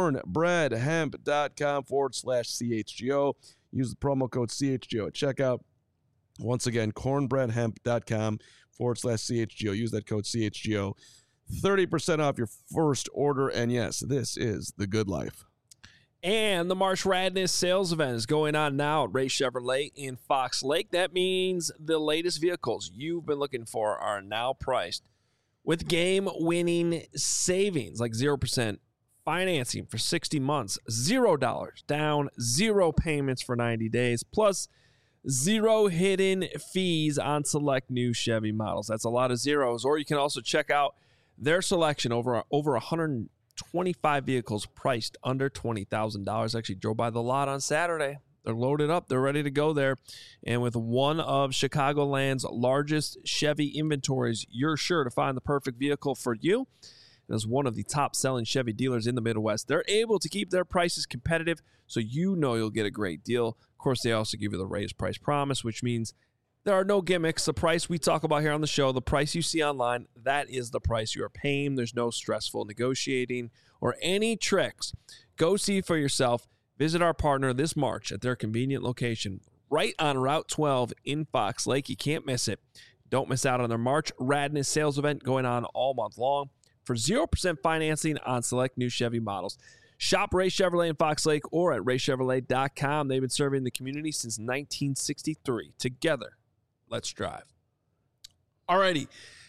cornbreadhemp.com forward slash CHGO. Use the promo code C H G O at checkout. Once again, cornbreadhemp.com forward slash CHGO. Use that code C H G O. thirty percent off your first order. And yes, this is the good life. And the March Radness sales event is going on now at Ray Chevrolet in Fox Lake. That means the latest vehicles you've been looking for are now priced with game-winning savings, like zero percent financing for sixty months, zero dollars down, zero payments for ninety days, plus zero hidden fees on select new Chevy models. That's a lot of zeros. Or you can also check out their selection over over one hundred twenty-five vehicles priced under twenty thousand dollars. Actually drove by the lot on Saturday. They're loaded up. They're ready to go there. And with one of Chicagoland's largest Chevy inventories, you're sure to find the perfect vehicle for you. And as one of the top-selling Chevy dealers in the Midwest, they're able to keep their prices competitive, so you know you'll get a great deal. Of course, they also give you the raised price promise, which means there are no gimmicks. The price we talk about here on the show, the price you see online, that is the price you are paying. There's no stressful negotiating or any tricks. Go see for yourself. Visit our partner this March at their convenient location right on Route twelve in Fox Lake. You can't miss it. Don't miss out on their March Radness sales event going on all month long for zero percent financing on select new Chevy models. Shop Ray Chevrolet in Fox Lake or at ray chevrolet dot com. They've been serving the community since nineteen sixty-three. Together, let's drive. Alrighty.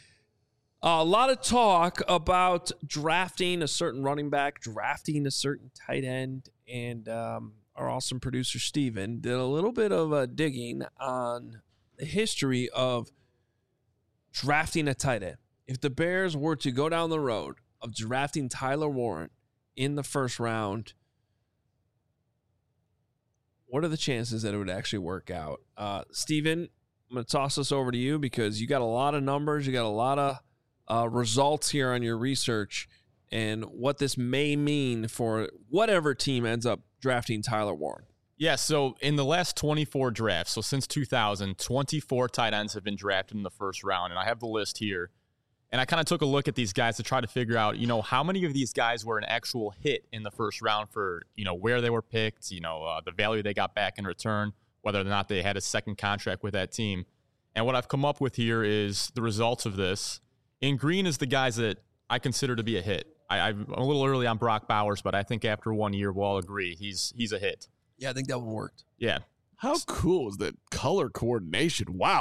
A lot of talk about drafting a certain running back, drafting a certain tight end, and um, our awesome producer, Steven, did a little bit of uh, digging on the history of drafting a tight end. If the Bears were to go down the road of drafting Tyler Warren in the first round, what are the chances that it would actually work out? Uh, Steven, I'm going to toss this over to you because you got a lot of numbers. You got a lot of uh, results here on your research and what this may mean for whatever team ends up drafting Tyler Warren. Yeah, so in the last twenty-four drafts, so since two thousand, twenty-four tight ends have been drafted in the first round, and I have the list here. And I kind of took a look at these guys to try to figure out, you know, how many of these guys were an actual hit in the first round for, you know, where they were picked, you know, uh, the value they got back in return, whether or not they had a second contract with that team. And what I've come up with here is the results of this. In green is the guys that I consider to be a hit. I, I'm a little early on Brock Bowers, but I think after one year, we'll all agree he's he's a hit. Yeah, I think that one worked. Yeah. How cool is that color coordination? Wow.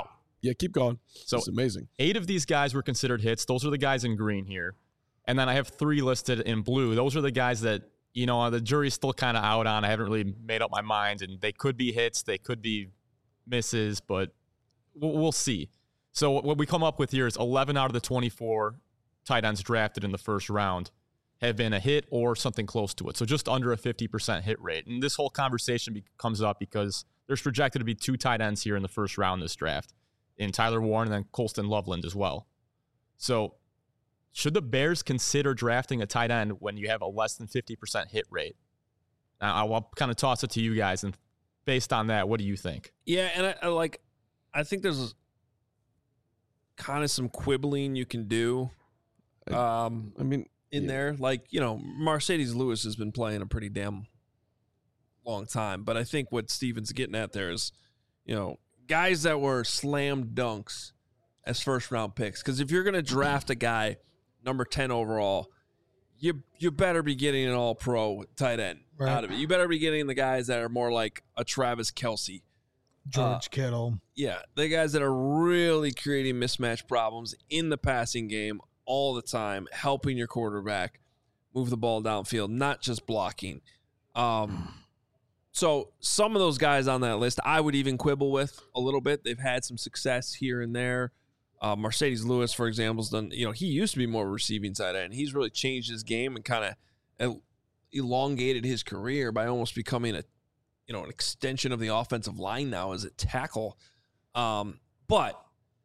Yeah, keep going. So it's amazing. Eight of these guys were considered hits. Those are the guys in green here. And then I have three listed in blue. Those are the guys that, you know, the jury's still kind of out on. I haven't really made up my mind. And they could be hits. They could be misses. But we'll, we'll see. So what we come up with here is eleven out of the twenty-four tight ends drafted in the first round have been a hit or something close to it. So just under a fifty percent hit rate. And this whole conversation be- comes up because there's projected to be two tight ends here in the first round this draft, in Tyler Warren and then Colston Loveland as well. So should the Bears consider drafting a tight end when you have a less than fifty percent hit rate? Now, I'll kind of toss it to you guys, and based on that, what do you think? Yeah, and I, I like, I think there's kind of some quibbling you can do. Um, I mean, in yeah. there, like, you know, Mercedes Lewis has been playing a pretty damn long time, but I think what Steven's getting at there is, you know, guys that were slam dunks as first round picks. Because if you're going to draft a guy number ten overall, you you better be getting an all pro tight end Right. out of it. You better be getting the guys that are more like a Travis Kelce. George Uh, Kittle. Yeah, the guys that are really creating mismatch problems in the passing game all the time, helping your quarterback move the ball downfield, not just blocking. Um, so some of those guys on that list, I would even quibble with a little bit. They've had some success here and there. Uh, Mercedes Lewis, for example, has done. You know, he used to be more receiving side end. He's really changed his game and kind of elongated his career by almost becoming a, you know, an extension of the offensive line now as a tackle. Um, but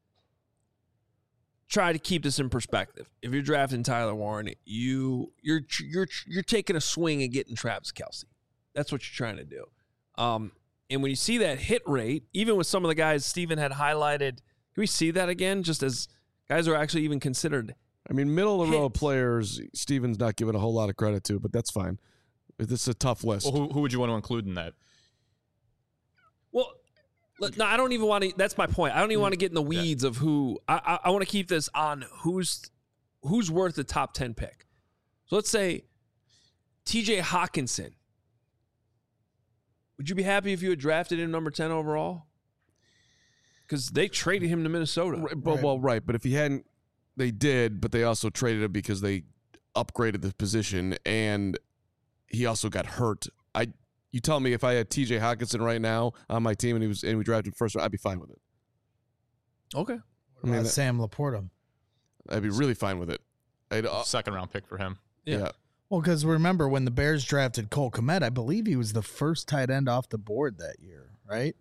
try to keep this in perspective. If you're drafting Tyler Warren, you you're you're you're taking a swing at getting Travis Kelce. That's what you're trying to do. Um, and when you see that hit rate, even with some of the guys Steven had highlighted, can we see that again? Just as guys are actually even considered. I mean, middle of the road hits. players, Steven's not giving a whole lot of credit to, but that's fine. This is a tough list. Well, who, who would you want to include in that? Well, look, no, I don't even want to. That's my point. I don't even want to get in the weeds of who. I I, I want to keep this on who's who's worth the top ten pick. So let's say T J Hawkinson. Would you be happy if you had drafted him number ten overall? Because they traded him to Minnesota. Right, well, Right. well, right, but if he hadn't, they did, but they also traded him because they upgraded the position, and he also got hurt. I, you tell me if I had T J Hawkinson right now on my team and he was and we drafted first, I'd be fine with it. Okay. I mean, Uh, that- Sam Laporta. I'd be really fine with it. I'd, uh, Second round pick for him. Yeah. yeah. Well, because remember when the Bears drafted Cole Kmet, I believe he was the first tight end off the board that year, right?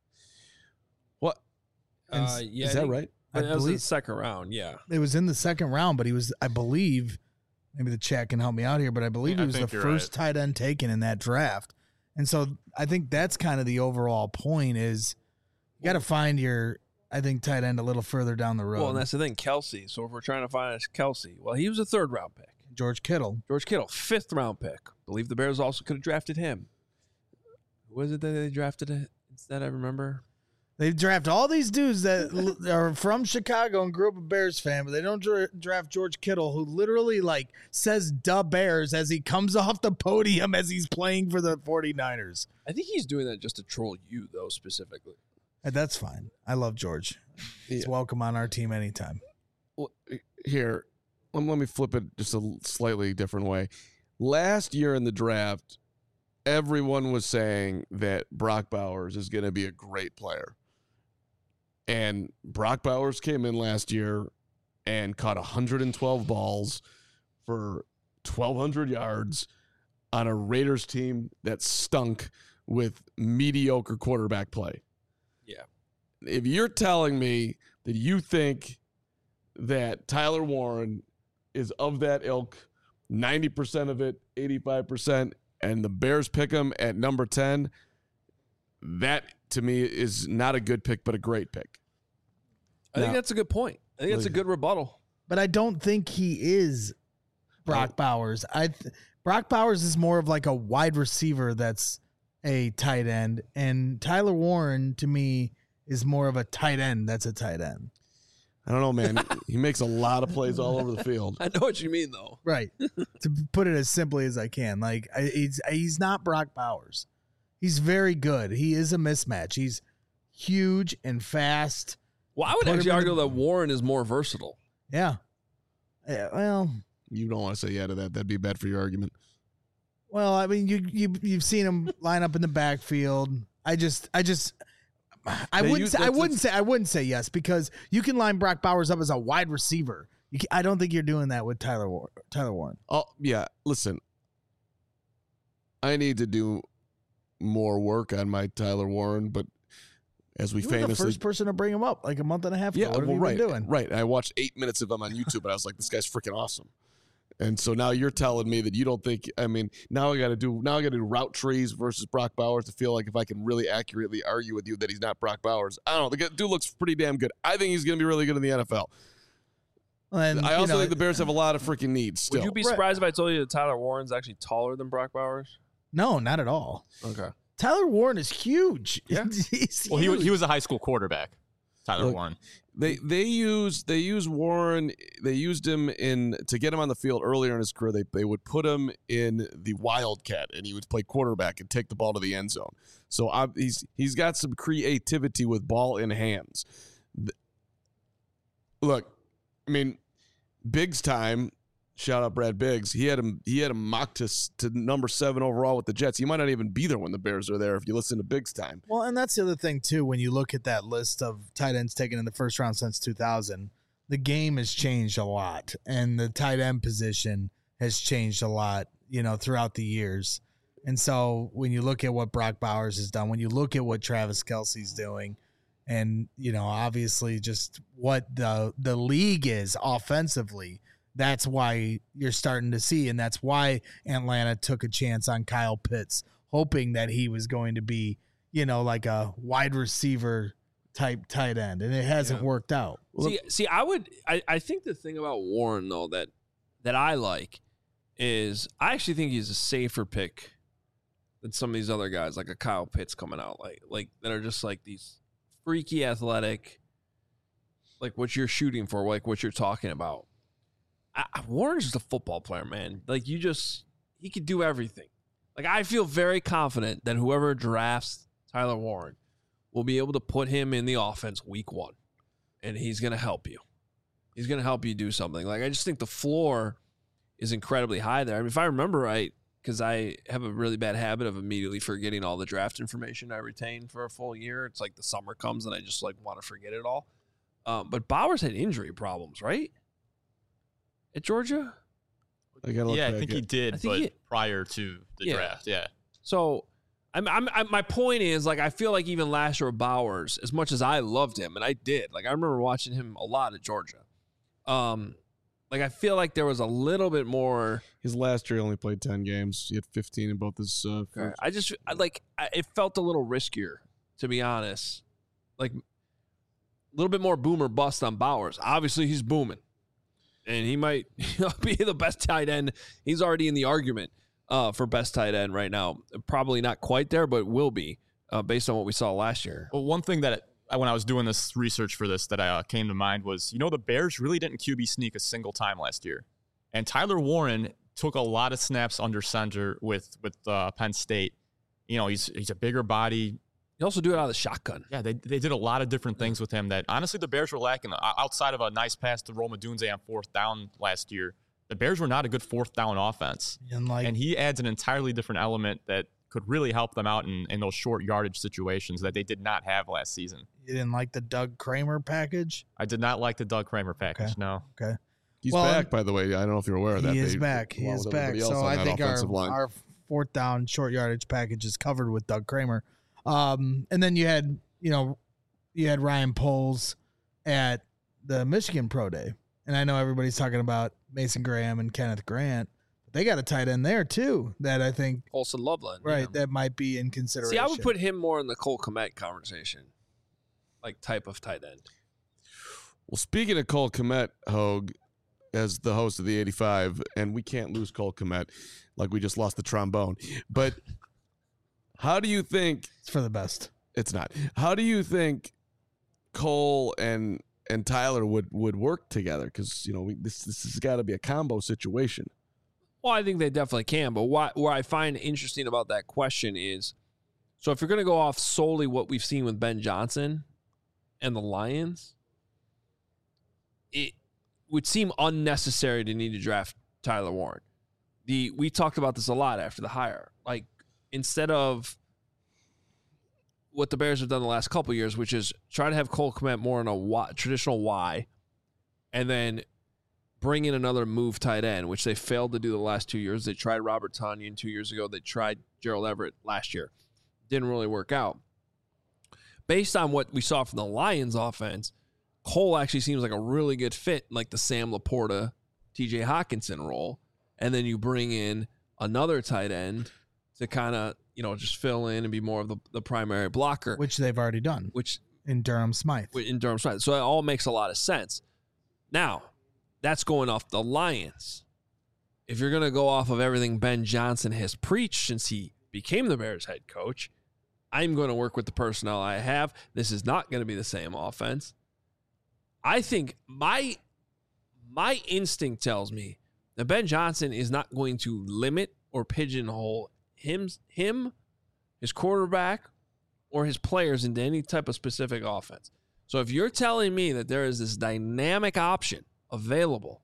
What And Uh, yeah, is I that think- right? I That was in the believe second round. Yeah. it was in the second round, but he was, I believe, maybe the chat can help me out here, but I believe I he was the think you're first tight end taken in that draft. And so I think that's kind of the overall point is you got to find your, I think, tight end a little further down the road. Well, and that's the thing, Kelce. So if we're trying to find a Kelce, well, he was a third round pick. George Kittle. George Kittle, fifth round pick. Believe the Bears also could have drafted him. Who was it that they drafted it instead? I remember. They draft all these dudes that l- are from Chicago and grew up a Bears fan, but they don't dra- draft George Kittle, who literally like says "duh Bears" as he comes off the podium as he's playing for the 49ers. I think he's doing that just to troll you, though, specifically. And that's fine. I love George. He's Yeah. welcome on our team anytime. Well, here, let let me flip it just a slightly different way. Last year in the draft, everyone was saying that Brock Bowers is going to be a great player. And Brock Bowers came in last year and caught one hundred twelve balls for twelve hundred yards on a Raiders team that stunk with mediocre quarterback play. Yeah. If you're telling me that you think that Tyler Warren is of that ilk, ninety percent of it, eighty-five percent, and the Bears pick him at number ten, that to me is not a good pick, but a great pick. I think No. that's a good point. I think that's a good rebuttal. But I don't think he is Brock Bowers. I th- Brock Bowers is more of like a wide receiver that's a tight end, and Tyler Warren to me is more of a tight end that's a tight end. I don't know, man. He makes a lot of plays all over the field. I know what you mean, though. Right. To put it as simply as I can, like I, he's he's not Brock Bowers. He's very good. He is a mismatch. He's huge and fast Well, I would Put him actually in argue the- that Warren is more versatile. Yeah. Yeah, well, You don't want to say yeah to that. That'd be bad for your argument. well, I mean, you you you've seen him line up in the backfield. I just, I just, I They wouldn't, use- say, I that's- wouldn't say, I wouldn't say yes because you can line Brock Bowers up as a wide receiver. You can, I don't think you're doing that with Tyler War- Tyler Warren. Oh yeah, listen. I need to do more work on my Tyler Warren, but as we You were the famously first person to bring him up like a month and a half ago. yeah, what have well, you right, been doing? right. I watched eight minutes of him on YouTube, and I was like, "This guy's freaking awesome." And so now you're telling me that you don't think. I mean, now I got to do now I got to do route trees versus Brock Bowers to feel like if I can really accurately argue with you that he's not Brock Bowers. I don't know. The guy- dude looks pretty damn good. I think he's going to be really good in the N F L. And, I you also know, think the Bears have a lot of freaking needs still. Would you be Right. surprised if I told you that Tyler Warren's actually taller than Brock Bowers? no, not at all. Okay. Tyler Warren is huge. Yeah. He's Well, he, huge. he was a high school quarterback, Tyler Look, Warren. They they use they use Warren. They used him in to get him on the field earlier in his career. They they would put him in the Wildcat, and he would play quarterback and take the ball to the end zone. So I, he's he's got some creativity with ball in hands. Th- Look, I mean, Biggs time. Shout out Brad Biggs. He had him. He had him mocked to s- to number seven overall with the Jets. He might not even be there when the Bears are there. If you listen to Biggs time. Well, and that's the other thing too. When you look at that list of tight ends taken in the first round since two thousand, the game has changed a lot, and the tight end position has changed a lot. You know, throughout the years. And so when you look at what Brock Bowers has done, when you look at what Travis Kelce's doing, and you know, obviously just what the the league is offensively. That's why you're starting to see, and that's why Atlanta took a chance on Kyle Pitts, hoping that he was going to be, you know, like a wide receiver type tight end, and it hasn't Yeah. worked out. See, see, I would, I, I think the thing about Warren though that that I like is I actually think he's a safer pick than some of these other guys, like a Kyle Pitts coming out, like like that are just like these freaky athletic, like what you're shooting for, like what you're talking about. I, Warren's just a football player, man. Like you just, he could do everything. Like I feel very confident that whoever drafts Tyler Warren will be able to put him in the offense week one, and he's going to help you. He's going to help you do something. Like I just think the floor is incredibly high there. I mean, if I remember right, because I have a really bad habit of immediately forgetting all the draft information I retain for a full year. It's like the summer comes and I just like want to forget it all. Um, but Bowers had injury problems, right? At Georgia? I gotta look Yeah, I back think at- he did, I think but he- prior to the Yeah. draft, yeah. So, I'm, I'm, I'm, my point is, like, I feel like even last year with Bowers, as much as I loved him, and I did, like, I remember watching him a lot at Georgia. Um, like, I feel like there was a little bit more. His last year he only played ten games. He had fifteen in both his. Uh, first- I just, I, like, I, it felt a little riskier, to be honest. Like, a little bit more boom or bust on Bowers. Obviously, he's booming. And he might be the best tight end. He's already in the argument uh, for best tight end right now. Probably not quite there, but will be uh, based on what we saw last year. Well, one thing that I, when I was doing this research for this that uh, came to mind was, you know, the Bears really didn't Q B sneak a single time last year. And Tyler Warren took a lot of snaps under center with with uh, Penn State. You know, he's he's a bigger body. You also do it out of the shotgun. Yeah, they they did a lot of different things with him that honestly the Bears were lacking. O- Outside of a nice pass to Roma Dunze on fourth down last year, the Bears were not a good fourth down offense. And like, And he adds an entirely different element that could really help them out in, in those short yardage situations that they did not have last season. you didn't like the Doug Kramer package. I did not like the Doug Kramer package, Okay. no. Okay, He's Well, back, by the way. I don't know if you're aware of that. he is They- back. He along is with back. everybody else So on I that think our offensive line. our fourth down short yardage package is covered with Doug Kramer. Um, and then you had, you know, you had Ryan Poles at the Michigan Pro Day. And I know everybody's talking about Mason Graham and Kenneth Grant. But they got a tight end there too that I think, Colson Loveland. right, yeah. that might be in consideration. See, I would put him more in the Cole Kmet conversation, like type of tight end. Well, speaking of Cole Kmet, Hogue, as the host of the eighty-five, and we can't lose Cole Kmet like we just lost the trombone. But how do you think it's for the best. it's not? How do you think Cole and and Tyler would would work together? Because you know we, this this has got to be a combo situation. Well, I think they definitely can. But what, what I find interesting about that question is, so if you're going to go off solely what we've seen with Ben Johnson and the Lions, it would seem unnecessary to need to draft Tyler Warren. The we talked about this a lot after the hire. Like, instead of what the Bears have done the last couple of years, which is try to have Cole Kmet more in a y, traditional Y, and then bring in another move tight end, which they failed to do the last two years. They tried Robert Tonyan two years ago. They tried Gerald Everett last year. Didn't really work out. Based on what we saw from the Lions offense, Cole actually seems like a really good fit, like the Sam Laporta, T J Hawkinson role. And then you bring in another tight end to kind of, you know, just fill in and be more of the, the primary blocker. Which they've already done. Which in Durham Smythe. In Durham Smythe. So it all makes a lot of sense. Now, that's going off the Lions. If you're going to go off of everything Ben Johnson has preached since he became the Bears head coach, I'm going to work with the personnel I have. This is not going to be the same offense. I think my my instinct tells me that Ben Johnson is not going to limit or pigeonhole him, him, his quarterback, or his players into any type of specific offense. So if you're telling me that there is this dynamic option available,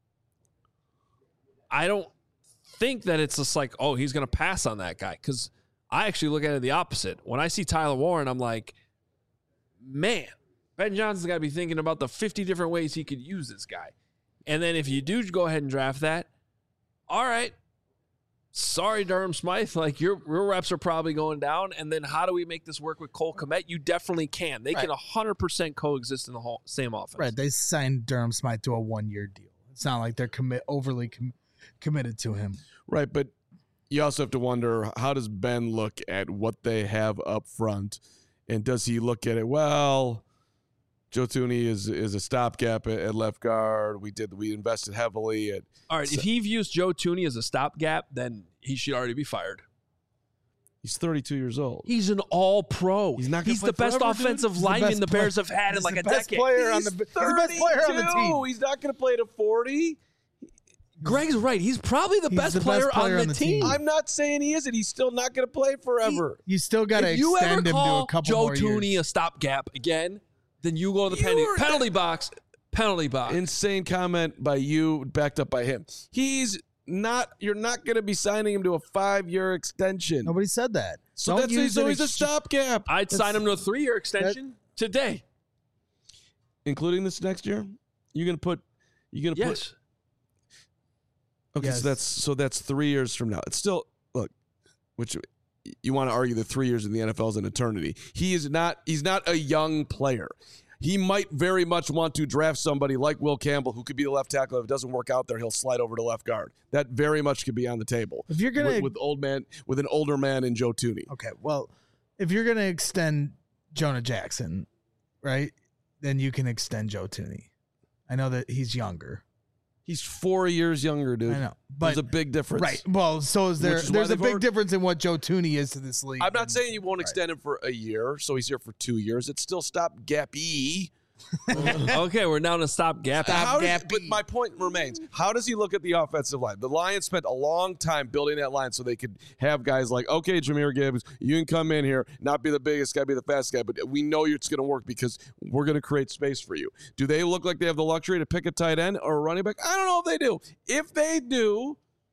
I don't think that it's just like, oh, he's going to pass on that guy. Because I actually look at it the opposite. When I see Tyler Warren, I'm like, man, Ben Johnson's got to be thinking about the fifty different ways he could use this guy. And then if you do go ahead and draft that, all right, sorry, Durham Smythe, like your, your reps are probably going down. And then how do we make this work with Cole Kmet? You definitely can. They right. can one hundred percent coexist in the whole same offense. Right. They signed Durham Smythe to a one-year deal. It's not like they're commit overly com- committed to him. Right, but you also have to wonder, how does Ben look at what they have up front? And does he look at it, well, Joe Thuney is is a stopgap at, at left guard. We did we invested heavily at. All right, so, if he views Joe Thuney as a stopgap, then he should already be fired. He's thirty-two years old. He's an all-pro. He's not. He's the best forever, offensive dude. lineman the, the Bears have had in like a decade. Player on the, he's, he's the best player on the team. He's not going to play to forty. Greg's right. He's probably the, best, the player best player on, on the, the team. team. I'm not saying he isn't. He's still not going to play forever. He, you still got to extend him to a couple Joe more Thuney years. a stopgap again, then you go to the penalty, penalty box. Penalty box. Insane comment by you, backed up by him. He's not. You're not going to be signing him to a five-year extension. Nobody said that. So Don't that's use so an he's ex- a stopgap. I'd That's- sign him to a three-year extension today. Including this next year. You're going to put. You're going to Yes. put. Okay, Yes. so that's so that's three years from now. It's still look, which you want to argue that three years in the N F L is an eternity. He is not. He's not a young player. He might very much want to draft somebody like Will Campbell, who could be the left tackle. If it doesn't work out there, he'll slide over to left guard. That very much could be on the table. If you're gonna with, with old man, with an older man in Joe Thuney. Okay, well, if you're gonna extend Jonah Jackson, right, then you can extend Joe Thuney. I know that he's younger. He's four years younger, dude. I know, but there's a big difference, right? Well, so is there. Which is why There's a they've big already- difference in what Joe Thuney is to this league. I'm not and- saying you won't right. extend him for a year, so he's here for two years. It's still stopgap-y. Okay, we're down to stopgap. How does, but my point remains, how does he look at the offensive line? The Lions spent a long time building that line so they could have guys like, okay, Jahmyr Gibbs, you can come in here, not be the biggest guy, be the fastest guy, but we know it's going to work because we're going to create space for you. Do they look like they have the luxury to pick a tight end or a running back? I don't know if they do. If they do,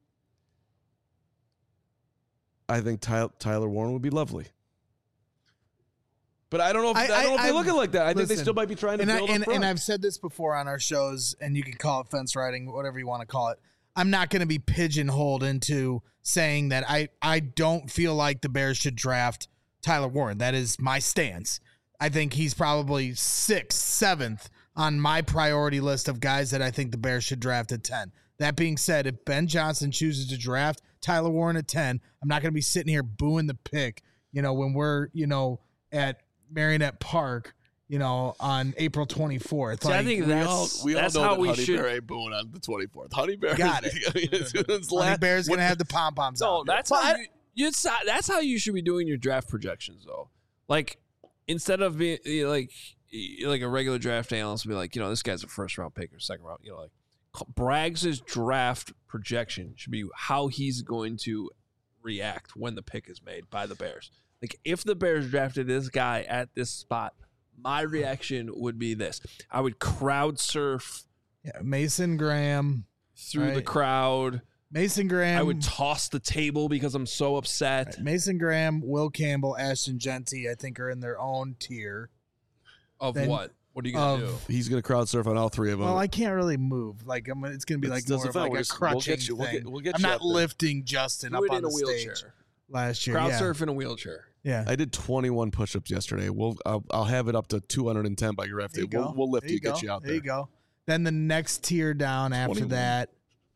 I think Ty- Tyler Warren would be lovely. But I don't know if, I, I don't know if they I, look at it like that. I listen, think they still might be trying to and build I, and, up front. and I've said this before on our shows, and you can call it fence riding, whatever you want to call it. I'm not going to be pigeonholed into saying that I, I don't feel like the Bears should draft Tyler Warren. That is my stance. I think he's probably sixth, seventh on my priority list of guys that I think the Bears should draft at ten. That being said, if Ben Johnson chooses to draft Tyler Warren at ten, I'm not going to be sitting here booing the pick, you know, when we're, you know, at Marionette Park, you know, on April twenty-fourth. See, like, I think we that's, all, we that's all know how that we Honey should. Bear ain't booing on the twenty-fourth. Honey Bear Got it. it's Honey last, Bear's going to have the pom-poms No, out. that's But how I- you, you, that's how you should be doing your draft projections, though. Like, instead of being like like a regular draft analyst, be like, you know, this guy's a first round pick or second round. You know, like Braggs' draft projection should be how he's going to react when the pick is made by the Bears. Like, if the Bears drafted this guy at this spot, my reaction would be this. I would crowd surf Yeah, Mason Graham. through the Right. crowd. Mason Graham. I would toss the table because I'm so upset. Right, Mason Graham, Will Campbell, Ashton Genty, I think are in their own tier. Of Then- what? What are you going to do? Of He's going to crowd surf on all three of them. well, I can't really move. Like I'm, it's gonna be It's- like doesn't more of matter. like We'll a just- we'll crutching get you- we'll thing. get- we'll get I'm you not up there. lifting Justin Do up it on in a the wheelchair. stage last year. Crowd yeah. surf in a wheelchair. Yeah. I did twenty-one push-ups yesterday. We'll I'll, I'll have it up to two hundred ten by draft There day. you We'll, go. we'll lift There you, go. get you out there. there. you go. Then the next tier down after twenty-one. that,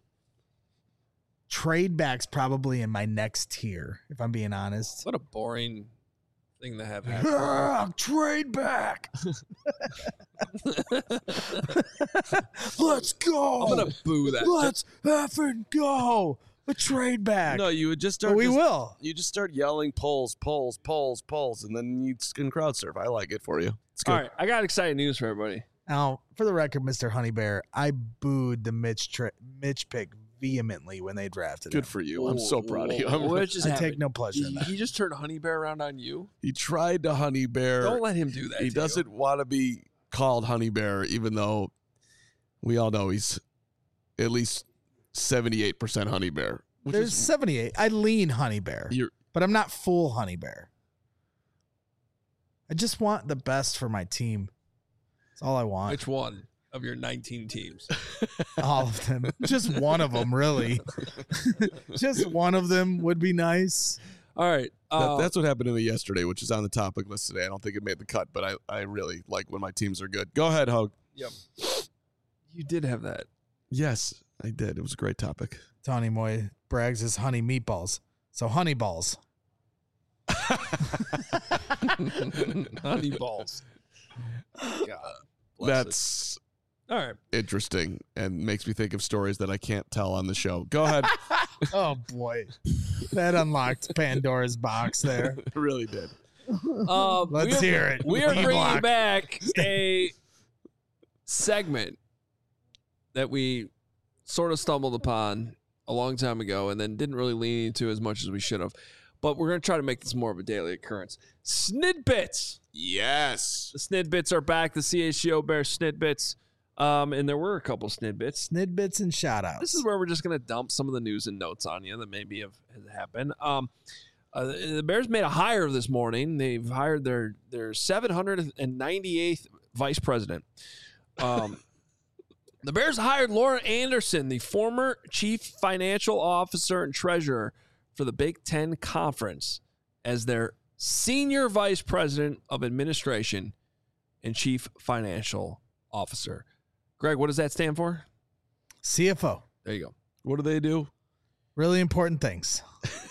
trade backs probably in my next tier, if I'm being honest. What a boring thing to have happen. Ah, trade back. Let's go. I'm going to boo that. Let's effing go. A trade back. No, you would just start. but we just- will. You just start yelling polls, polls, polls, polls, and then you can crowd surf. I like it for you. It's good. All right, I got exciting news for everybody. Now, for the record, Mister Honey Bear, I booed the Mitch tra- Mitch pick vehemently when they drafted Good him. for you. I'm so proud of you. I'm, What just I happened? take no pleasure in He, that. he just turned Honey Bear around on you. he tried to honey bear. Don't let him do that. he to doesn't want to be called honey bear, even though we all know he's at least seventy-eight percent honey bear. Which There's is, seventy-eight. I lean Honey Bear, you're, but I'm not full Honey Bear. I just want the best for my team. That's all I you. want. Which one of your nineteen teams? All of them. Just one of them, really. Just one of them would be nice. All right. that, Uh, that's what happened to me yesterday, which is on the topic list today. I don't think it made the cut, but I, I really like when my teams are good. Go ahead, Hogue. Yep. You did have that. Yes, I did. It was a great topic. Tony Moy brags his honey meatballs. So honey balls. Honey balls. God. bless That's it. All right. interesting and makes me think of stories that I can't tell on the show. Go ahead. Oh boy. That unlocked Pandora's box there. It really did. Um, Let's we are, hear it. We are bringing D-block. back a segment that we sort of stumbled upon a long time ago and then didn't really lean into as much as we should have. But we're going to try to make this more of a daily occurrence. Snidbits. Yes. The Snidbits are back. The C H G O Bears Snidbits. Um, and there were a couple Snidbits. Snidbits and shout outs. This is where we're just going to dump some of the news and notes on you that maybe have, have happened. Um, uh, the Bears made a hire this morning. They've hired their their seven hundred ninety-eighth vice president. Um, the Bears hired Laura Anderson, the former chief financial officer and treasurer for the Big Ten Conference, as their senior vice president of administration and chief financial officer. Greg, what does that stand for? C F O. There you go. What do they do? Really important things.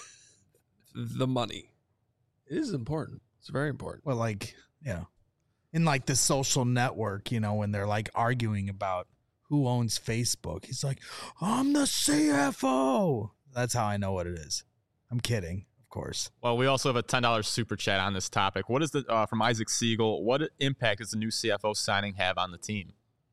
The money. It is important. It's very important. Well, like, you know, in like the social network, you know, when they're like arguing about who owns Facebook, he's like, I'm the C F O. That's how I know what it is. I'm kidding, of course. Well, we also have a ten dollars super chat on this topic. What is the uh, from Isaac Siegel? What impact does the new C F O signing have on the team?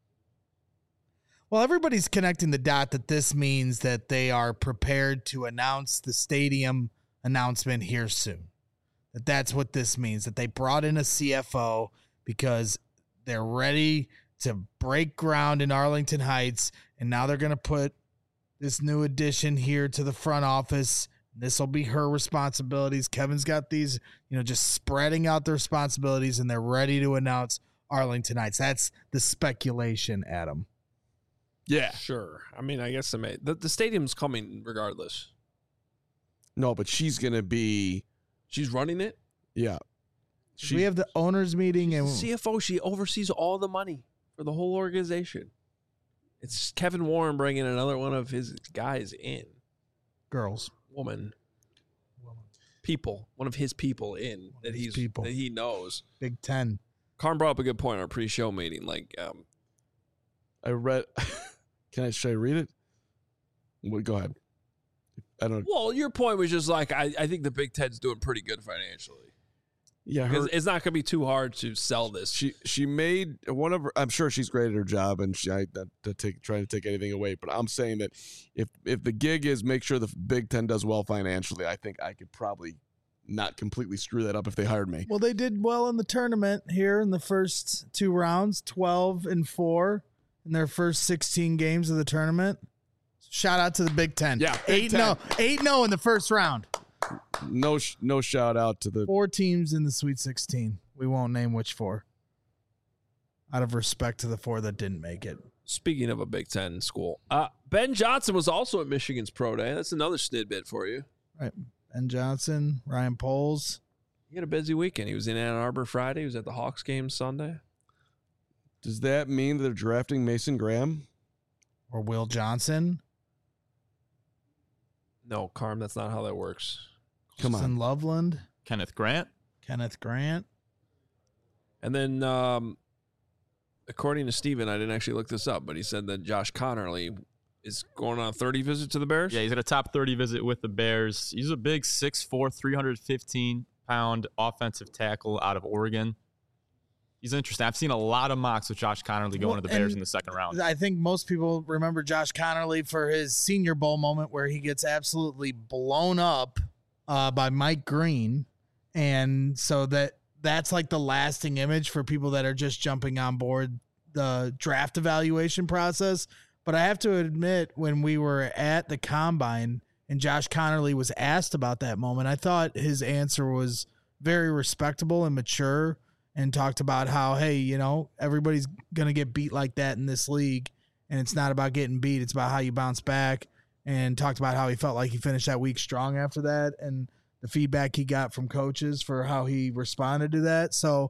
Well, everybody's connecting the dot that this means that they are prepared to announce the stadium announcement here soon. That that's what this means, that they brought in a C F O because they're ready to break ground in Arlington Heights, and now they're going to put this new addition here to the front office. This will be her responsibilities. Kevin's got these, you know, just spreading out the responsibilities, and they're ready to announce Arlington Heights. That's the speculation, Adam. Yeah. Sure. I mean, I guess I may. The, the stadium's coming regardless. No, but she's going to be, She's running it. yeah. we have the owners meeting, and C F O, she oversees all the money for the whole organization. It's Kevin Warren bringing another one of his guys in. girls. Woman. People. One of his people in that his he's people. that he knows. Big Ten. Carm brought up a good point in our pre-show meeting. Like, um, I read, can I, should I read it? Well, go ahead. I don't, well, your point was just like, I, I think the Big Ten's doing pretty good financially. yeah, Because her, it's not going to be too hard to sell this. she, she made one of her, I'm sure she's great at her job and she, I, not to take, trying to take anything away, but I'm saying that if, if the gig is make sure the Big Ten does well financially, I think I could probably not completely screw that up if they hired me. Well, they did well in the tournament here in the first two rounds, twelve and four in their first sixteen games of the tournament. Shout out to the Big Ten. Yeah, Big eight Ten. no, eight no in the first round. No, sh- no shout out to the. Four teams in the Sweet sixteen. We won't name which four. Out of respect to the four that didn't make it. Speaking of a Big Ten school, uh, Ben Johnson was also at Michigan's Pro Day. That's another snidbit for you. Right. Ben Johnson, Ryan Poles. He had a busy weekend. He was in Ann Arbor Friday. He was at the Hawks game Sunday. Does that mean that they're drafting Mason Graham? Or Will Johnson. No, Carm, that's not how that works. Come on. Justin Loveland. Kenneth Grant. Kenneth Grant. And then, um, according to Steven, I didn't actually look this up, but he said that Josh Connerly is going on a thirty visit to the Bears. Yeah, he's at a top thirty visit with the Bears. He's a big six foot four, three hundred fifteen pound offensive tackle out of Oregon. He's interesting. I've seen a lot of mocks with Josh Connerly going Well, to the Bears and in the second round. I think most people remember Josh Connerly for his Senior Bowl moment where he gets absolutely blown up uh, by Mike Green. And so that that's like the lasting image for people that are just jumping on board the draft evaluation process. But I have to admit, when we were at the Combine and Josh Connerly was asked about that moment, I thought his answer was very respectable and mature, and talked about how, hey, you know, everybody's going to get beat like that in this league, and it's not about getting beat. It's about how you bounce back, and talked about how he felt like he finished that week strong after that and the feedback he got from coaches for how he responded to that. So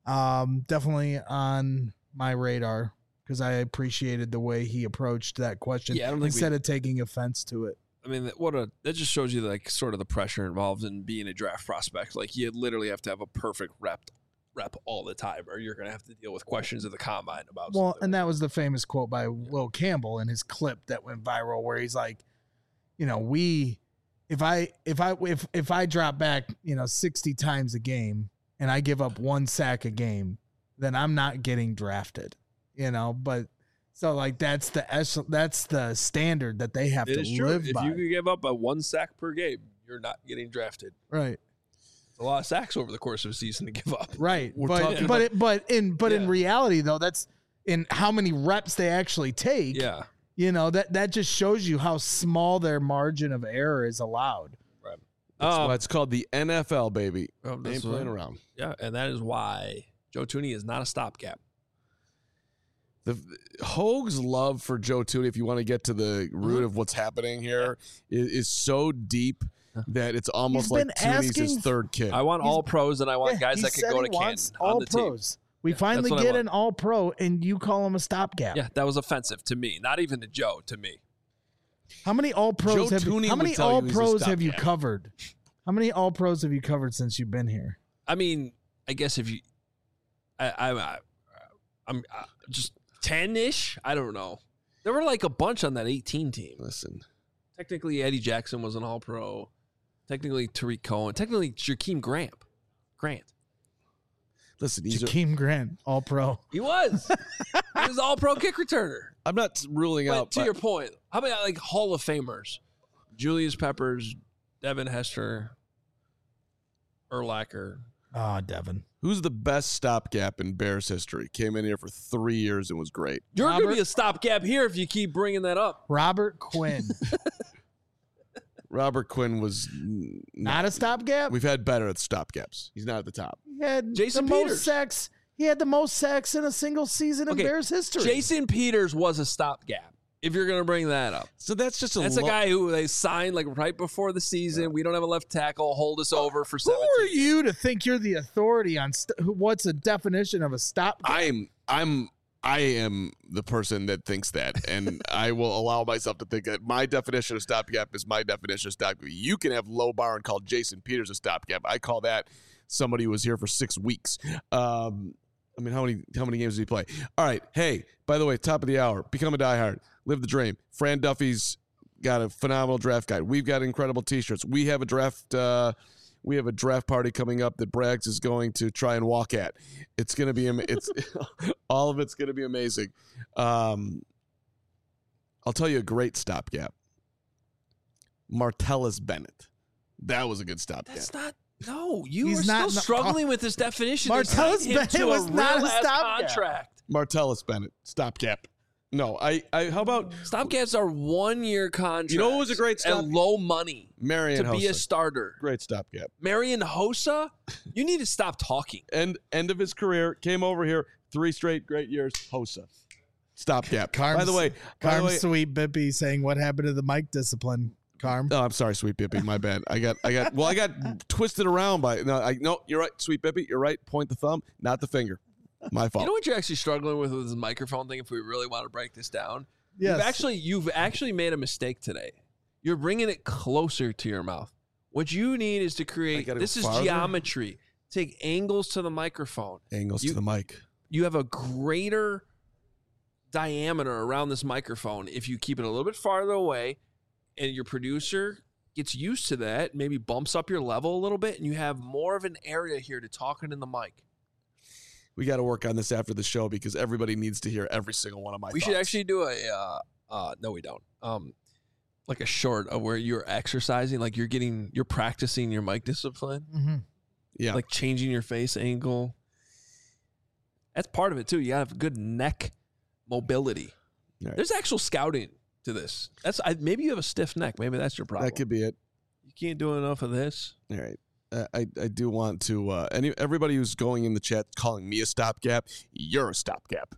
um, definitely on my radar because I appreciated the way he approached that question Yeah, I don't think instead we- of taking offense to it. I mean, what a that just shows you like sort of the pressure involved in being a draft prospect. Like you literally have to have a perfect rep rep all the time, or you're going to have to deal with questions at the combine about. Well, something. and that was the famous quote by Will Campbell in his clip that went viral, where he's like, you know, we, if I, if I, if if I drop back, you know, sixty times a game and I give up one sack a game, then I'm not getting drafted, you know. But so like that's the echelon, that's the standard that they have it to is true. live If by, you could give up a one sack per game, you're not getting drafted. right? It's a lot of sacks over the course of a season to give up. Right. We're but talking but it, but in but in Yeah. reality though, that's in how many reps they actually take. Yeah. You know, that that just shows you how small their margin of error is allowed. Right. That's Um, why it's called the N F L, baby. oh, They that's ain't playing what- around. Yeah, and that is why Joe Tooney is not a stopgap. The Hoag's love for Joe Tooney, if you want to get to the root Mm-hmm. of what's happening here, is, is so deep that it's almost He's like been Tooney's his asking- third kid. I want He's- all pros, and I want Yeah, guys he that could said go he to Canton wants on all the team. pros. We Yeah, finally that's what I get want. an all pro, and you call him a stopgap. Yeah, that was offensive to me. Not even to Joe, to me. How many all pros Joe have Tooney you, how would many tell you all he's a pros have you stopgap. covered? How many all pros have you covered since you've been here? I mean, I guess if you, I, I, I I'm uh, just ten ish. I don't know. There were like a bunch on that eighteen team. Listen, Technically, Eddie Jackson was an All Pro. Technically, Tariq Cohen. Technically, Jakeem Grant. Grant. listen. These are, Jakeem Grant, all pro. He was. He was All Pro kick returner. I'm not ruling But out. to but your point, how about like Hall of Famers? Julius Peppers, Devin Hester, Urlacher. Oh, Devin. who's the best stopgap in Bears history? Came in here for three years and was great. You're going to Robert- be a stopgap here if you keep bringing that up. Robert Quinn. Robert Quinn was n- Not a stopgap? We've had better at stopgaps. He's not at the top. He had Jason the most Peters. sacks. He had the most sacks in a single season in Okay, Bears history. Jason Peters was a stopgap. If you're going to bring that up, So that's just a that's a lo- guy who they signed like right before the season. We don't have a left tackle. Hold us over for Who seventeen. are you to think you're the authority on st- who- what's a definition of a stopgap? I'm I'm I am the person that thinks that, and I will allow myself to think that my definition of stopgap is my definition of stopgap. You can have low bar and call Jason Peters a stopgap. I call that somebody who was here for six weeks. Um, I mean, how many how many games did he play? All right. Hey, by the way, top of the hour, become a diehard, live the dream. Fran Duffy's got a phenomenal draft guide. We've got incredible T-shirts. We have a draft. Uh, we have a draft party coming up that Braggs is going to try and walk at. It's going to be. ama- It's all of it's going to be amazing. Um, I'll tell you a great stopgap. Martellus Bennett. That was a good stopgap. That's not. No, you He's are not- still no- struggling with this definition. They Martellus signed him Bennett to was a not a real-ass stopgap. contract. Martellus Bennett, stopgap. No, I, I. How about Stopgaps are one-year contracts. You know what was a great stop- at low money Marion to be a Hossa? starter. Great stopgap. Marion Hossa, you need to stop talking. End end of his career. Came over here. Three straight great years. Hossa. Stopgap. Carm's, by the way, by the Carm way, Sweet Bippy saying, what happened to the mic discipline, Carm? oh, I'm sorry, Sweet Bippy. My bad. I got, I got. Well, I got twisted around by. No, I no. You're right, Sweet Bippy. You're right. Point the thumb, not the finger. My fault. You know what you're actually struggling with with this microphone thing, if we really want to break this down? Yes. You've actually, you've actually made a mistake today. You're bringing it closer to your mouth. What you need is to I create, gotta go this is farther? geometry. Take angles to the microphone. Angles You- to the mic. You have a greater diameter around this microphone if you keep it a little bit farther away, and your producer gets used to that, maybe bumps up your level a little bit, and you have more of an area here to talk into the mic. We got to work on this after the show because everybody needs to hear every single one of my. We thoughts. should actually do a uh, uh no we don't um like a short of where you're exercising, like you're getting you're practicing your mic discipline, Mm-hmm. Yeah. like changing your face angle. That's part of it too. You gotta have good neck mobility. Right. There's actual scouting to this. That's I, maybe you have a stiff neck. Maybe that's your problem. That could be it. You can't do enough of this. All right. Uh, I, I do want to, uh, any, everybody who's going in the chat calling me a stopgap, you're a stopgap.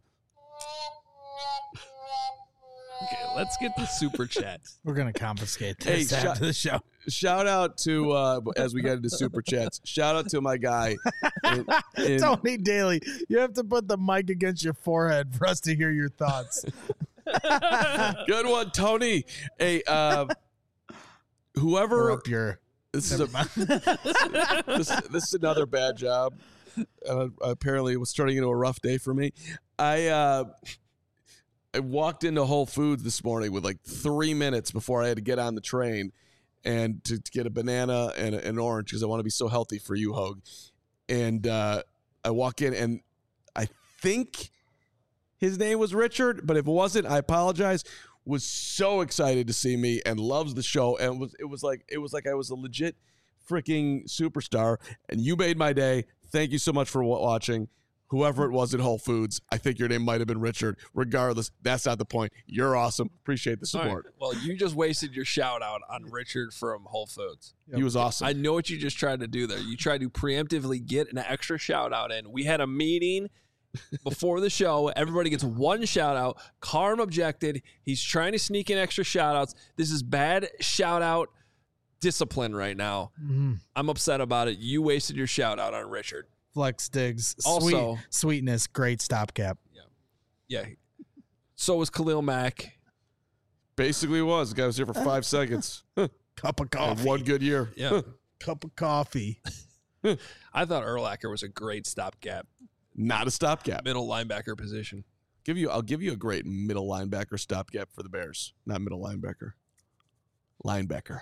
Okay, let's get the super chat. We're going to confiscate Hey, this shut- after the show. Shout out to, uh, as we get into super chats, shout out to my guy. in- in- Tony Daly, you have to put the mic against your forehead for us to hear your thoughts. Good one, Tony. Hey, uh, Or whoever, up your. this is, a, this, this is another bad job. Uh, apparently it was turning into a rough day for me. I, uh, I walked into Whole Foods this morning with like three minutes before I had to get on the train and to, to get a banana and a- an orange because I want to be so healthy for you, Hogue. And uh, I walk in and I think his name was Richard, but if it wasn't, I apologize. Was so excited to see me and loves the show, and it was it was like it was like I was a legit freaking superstar, and you made my day. Thank you so much for wa- watching. Whoever it was at Whole Foods, I think your name might have been Richard. Regardless, that's not the point. You're awesome. Appreciate the All right. support. Well, you just wasted your shout out on Richard from Whole Foods. He was awesome. I know what you just tried to do there. You tried to preemptively get an extra shout out in. We had a meeting before the show. Everybody gets one shout out. Carm objected. He's trying to sneak in extra shout outs. This is bad shout out discipline right now. Mhm. I'm upset about it. You wasted your shout out on Richard. Flex digs. Also- Sweet, sweetness, great stopgap. Yeah. So was Khalil Mack. Basically was. The guy was here for five seconds. Cup of Had coffee. one good year. Yeah. Cup of coffee. I thought Urlacher was a great stopgap Not a stopgap. middle linebacker position. Give you, I'll give you a great middle linebacker stopgap for the Bears. Not middle linebacker. Linebacker.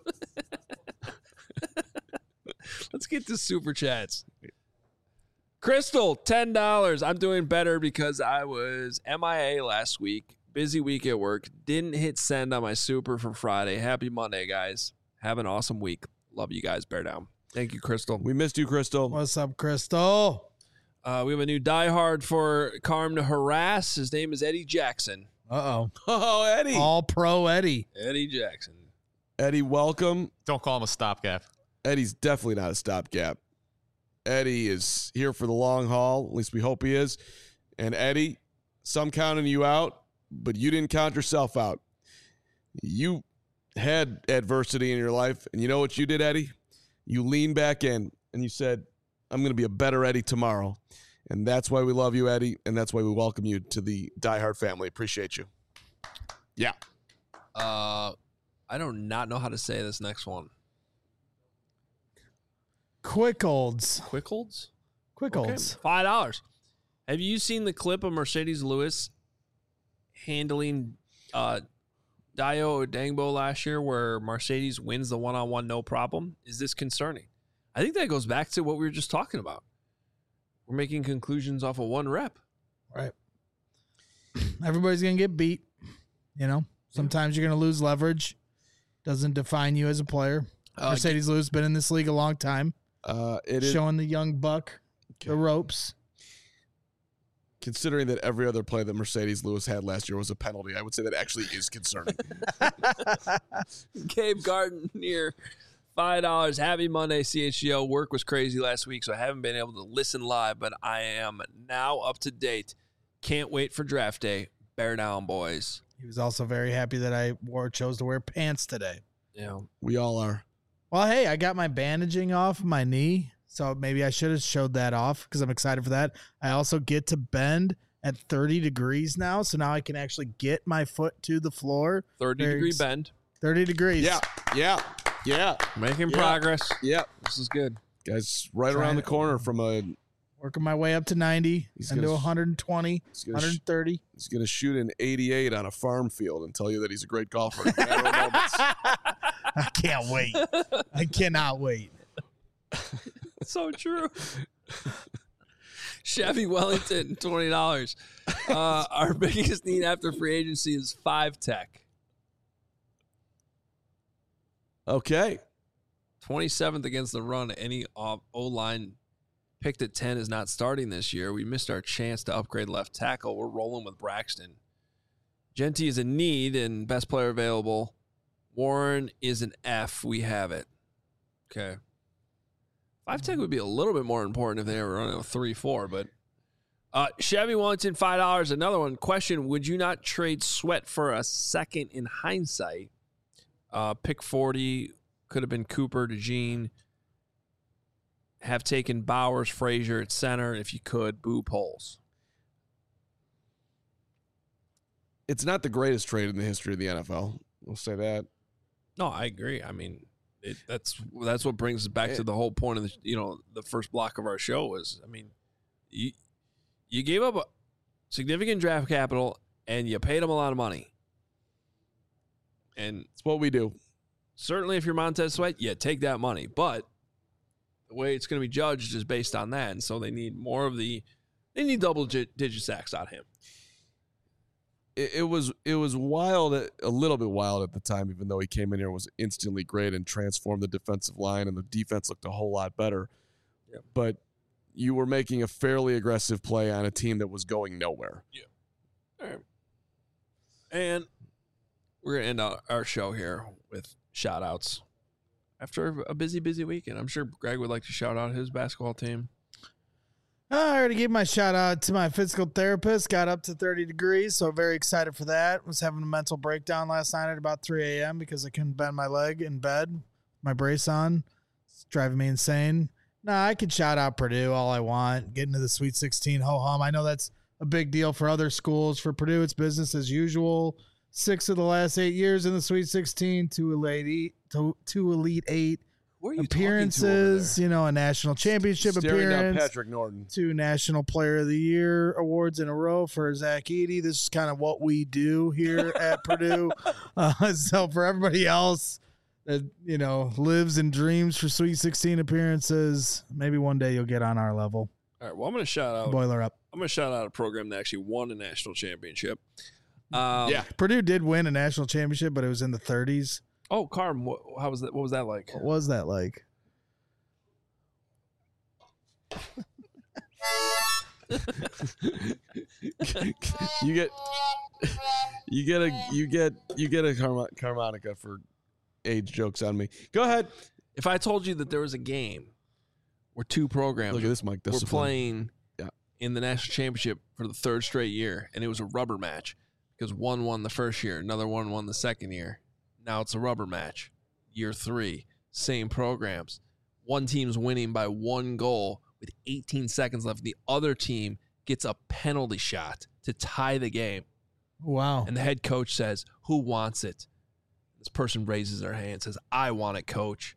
Let's get to super chats. Crystal, ten dollars. I'm doing better because I was M I A last week. Busy week at work. Didn't hit send on my super for Friday. Happy Monday, guys. Have an awesome week. Love you guys. Bear down. Thank you, Crystal. We missed you, Crystal. What's up, Crystal? Uh, we have a new diehard for Carm to harass. His name is Eddie Jackson. Uh Oh, Eddie. oh. All pro Eddie. Eddie Jackson. Eddie, welcome. Don't call him a stopgap. Eddie's definitely not a stopgap. Eddie is here for the long haul. At least we hope he is. And Eddie, some counting you out, but you didn't count yourself out. You had adversity in your life, and you know what you did, Eddie? You leaned back in and you said, I'm going to be a better Eddie tomorrow. And that's why we love you, Eddie, and that's why we welcome you to the Die Hard family. Appreciate you. Yeah. Uh, I do not know how to say this next one. Quickholds. Quickholds? Quickholds. Okay, five dollars. Have you seen the clip of Mercedes Lewis handling uh, Dio Odangbo last year where Mercedes wins the one-on-one no problem? Is this concerning? I think that goes back to what we were just talking about. We're making conclusions off of one rep. Right. Everybody's going to get beat. You know, sometimes you're going to lose leverage. Doesn't define you as a player. Uh, Mercedes Lewis been in this league a long time. Uh, it is Showing the young buck the ropes. considering that every other play that Mercedes Lewis had last year was a penalty. I would say that actually is concerning. Gabe Gardner, five dollars. Happy Monday, C H G O. Work was crazy last week, so I haven't been able to listen live, but I am now up to date. Can't wait for draft day. Bear down, boys. He was also very happy that I wore chose to wear pants today. Yeah. We all are. Well, hey, I got my bandaging off my knee, so maybe I should have showed that off because I'm excited for that. I also get to bend at thirty degrees now, so now I can actually get my foot to the floor. thirty Very degree ex- bend. thirty degrees. Yeah, yeah, yeah, Making Yeah. progress. yeah. This is good. Guys, right Trying around the to- corner from a. Working my way up to ninety He's and to gonna- one hundred twenty, He's gonna, sh- one thirty. he's gonna shoot an eighty-eight on a farm field and tell you that he's a great golfer. in a matter of moments. I can't wait. I cannot wait. So true. Chevy Wellington, twenty dollars. Uh, our biggest need after free agency is five tech. Okay. twenty-seventh against the run. Any O-line picked at ten is not starting this year. We missed our chance to upgrade left tackle. We're rolling with Braxton. Genty is a need and best player available. Warren is an F. We have it. Okay. Five tech would be a little bit more important if they were running a three four, but uh, Chevy Wellington, five dollars. Another one. Question, would you not trade Sweat for a second in hindsight? Uh, pick forty could have been Cooper, DeJean. Have taken Bowers, Frazier at center if you could. Boo polls. It's not the greatest trade in the history of the N F L. We'll say that. No, I agree. I mean, it, that's that's what brings us back to the whole point of the you know the first block of our show was. I mean, you you gave up a significant draft capital and you paid them a lot of money, and It's what we do. certainly if you're Montez Sweat, yeah, take that money. But the way it's going to be judged is based on that, and so they need more of the they need double digit, digit sacks on him. It, it was it was wild, a little bit wild at the time, even though he came in here and was instantly great and transformed the defensive line, and the defense looked a whole lot better. Yep. But you were making a fairly aggressive play on a team that was going nowhere. All right. And we're going to end our, our show here with shout outs after a busy, busy weekend. I'm sure Greg would like to shout out his basketball team. I already gave my shout out to my physical therapist. Got up to thirty degrees, so very excited for that. Was having a mental breakdown last night at about three a.m. because I couldn't bend my leg in bed. My brace on. It's driving me insane. Nah, I could shout out Purdue all I want. Getting to the Sweet sixteen, ho-hum. I know that's a big deal for other schools. For Purdue, it's business as usual. Six of the last eight years in the Sweet sixteen, two Elite Eight, two, two Elite Eight Where are you appearances, you know, a national championship Staring down appearance. Patrick Norton. Two National Player of the Year awards in a row for Zach Edey. This is kind of what we do here at Purdue. Uh, so for everybody else that, you know, lives and dreams for Sweet sixteen appearances, maybe one day you'll get on our level. All right. Well, I'm going to shout out. Boiler up. I'm going to shout out a program that actually won a national championship. Um, Yeah. Purdue did win a national championship, but it was in the thirties. Oh, Carm, what, how was that? What was that like? What was that like? you get you get a you get you get a harmo- harmonica for age jokes on me. Go ahead. If I told you that there was a game where two programs Look at this, Mike. were Discipline. playing Yeah. in the national championship for the third straight year, and it was a rubber match because one won the first year, another one won the second year. Now it's a rubber match. Year three, same programs. One team's winning by one goal with eighteen seconds left. The other team gets a penalty shot to tie the game. Wow. And the head coach says, who wants it? This person raises their hand and says, I want it, coach.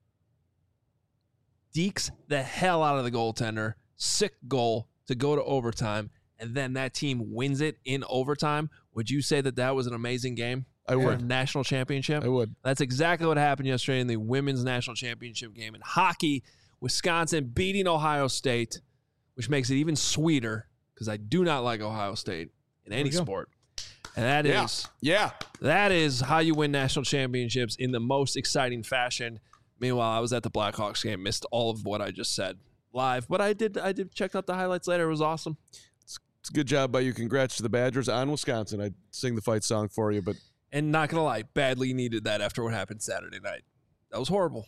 Dekes the hell out of the goaltender. Sick goal to go to overtime. And then that team wins it in overtime. Would you say that that was an amazing game? I For a would. national championship? I would. That's exactly what happened yesterday in the women's national championship game. In hockey, Wisconsin beating Ohio State, which makes it even sweeter because I do not like Ohio State in any we go. sport. And that is Yeah. Yeah. that is how you win national championships in the most exciting fashion. Meanwhile, I was at the Blackhawks game, missed all of what I just said live, but I did I did check out the highlights later. It was awesome. It's, it's a good job by you. Congrats to the Badgers on Wisconsin. I'd sing the fight song for you, but And not going to lie, badly needed that after what happened Saturday night. That was horrible.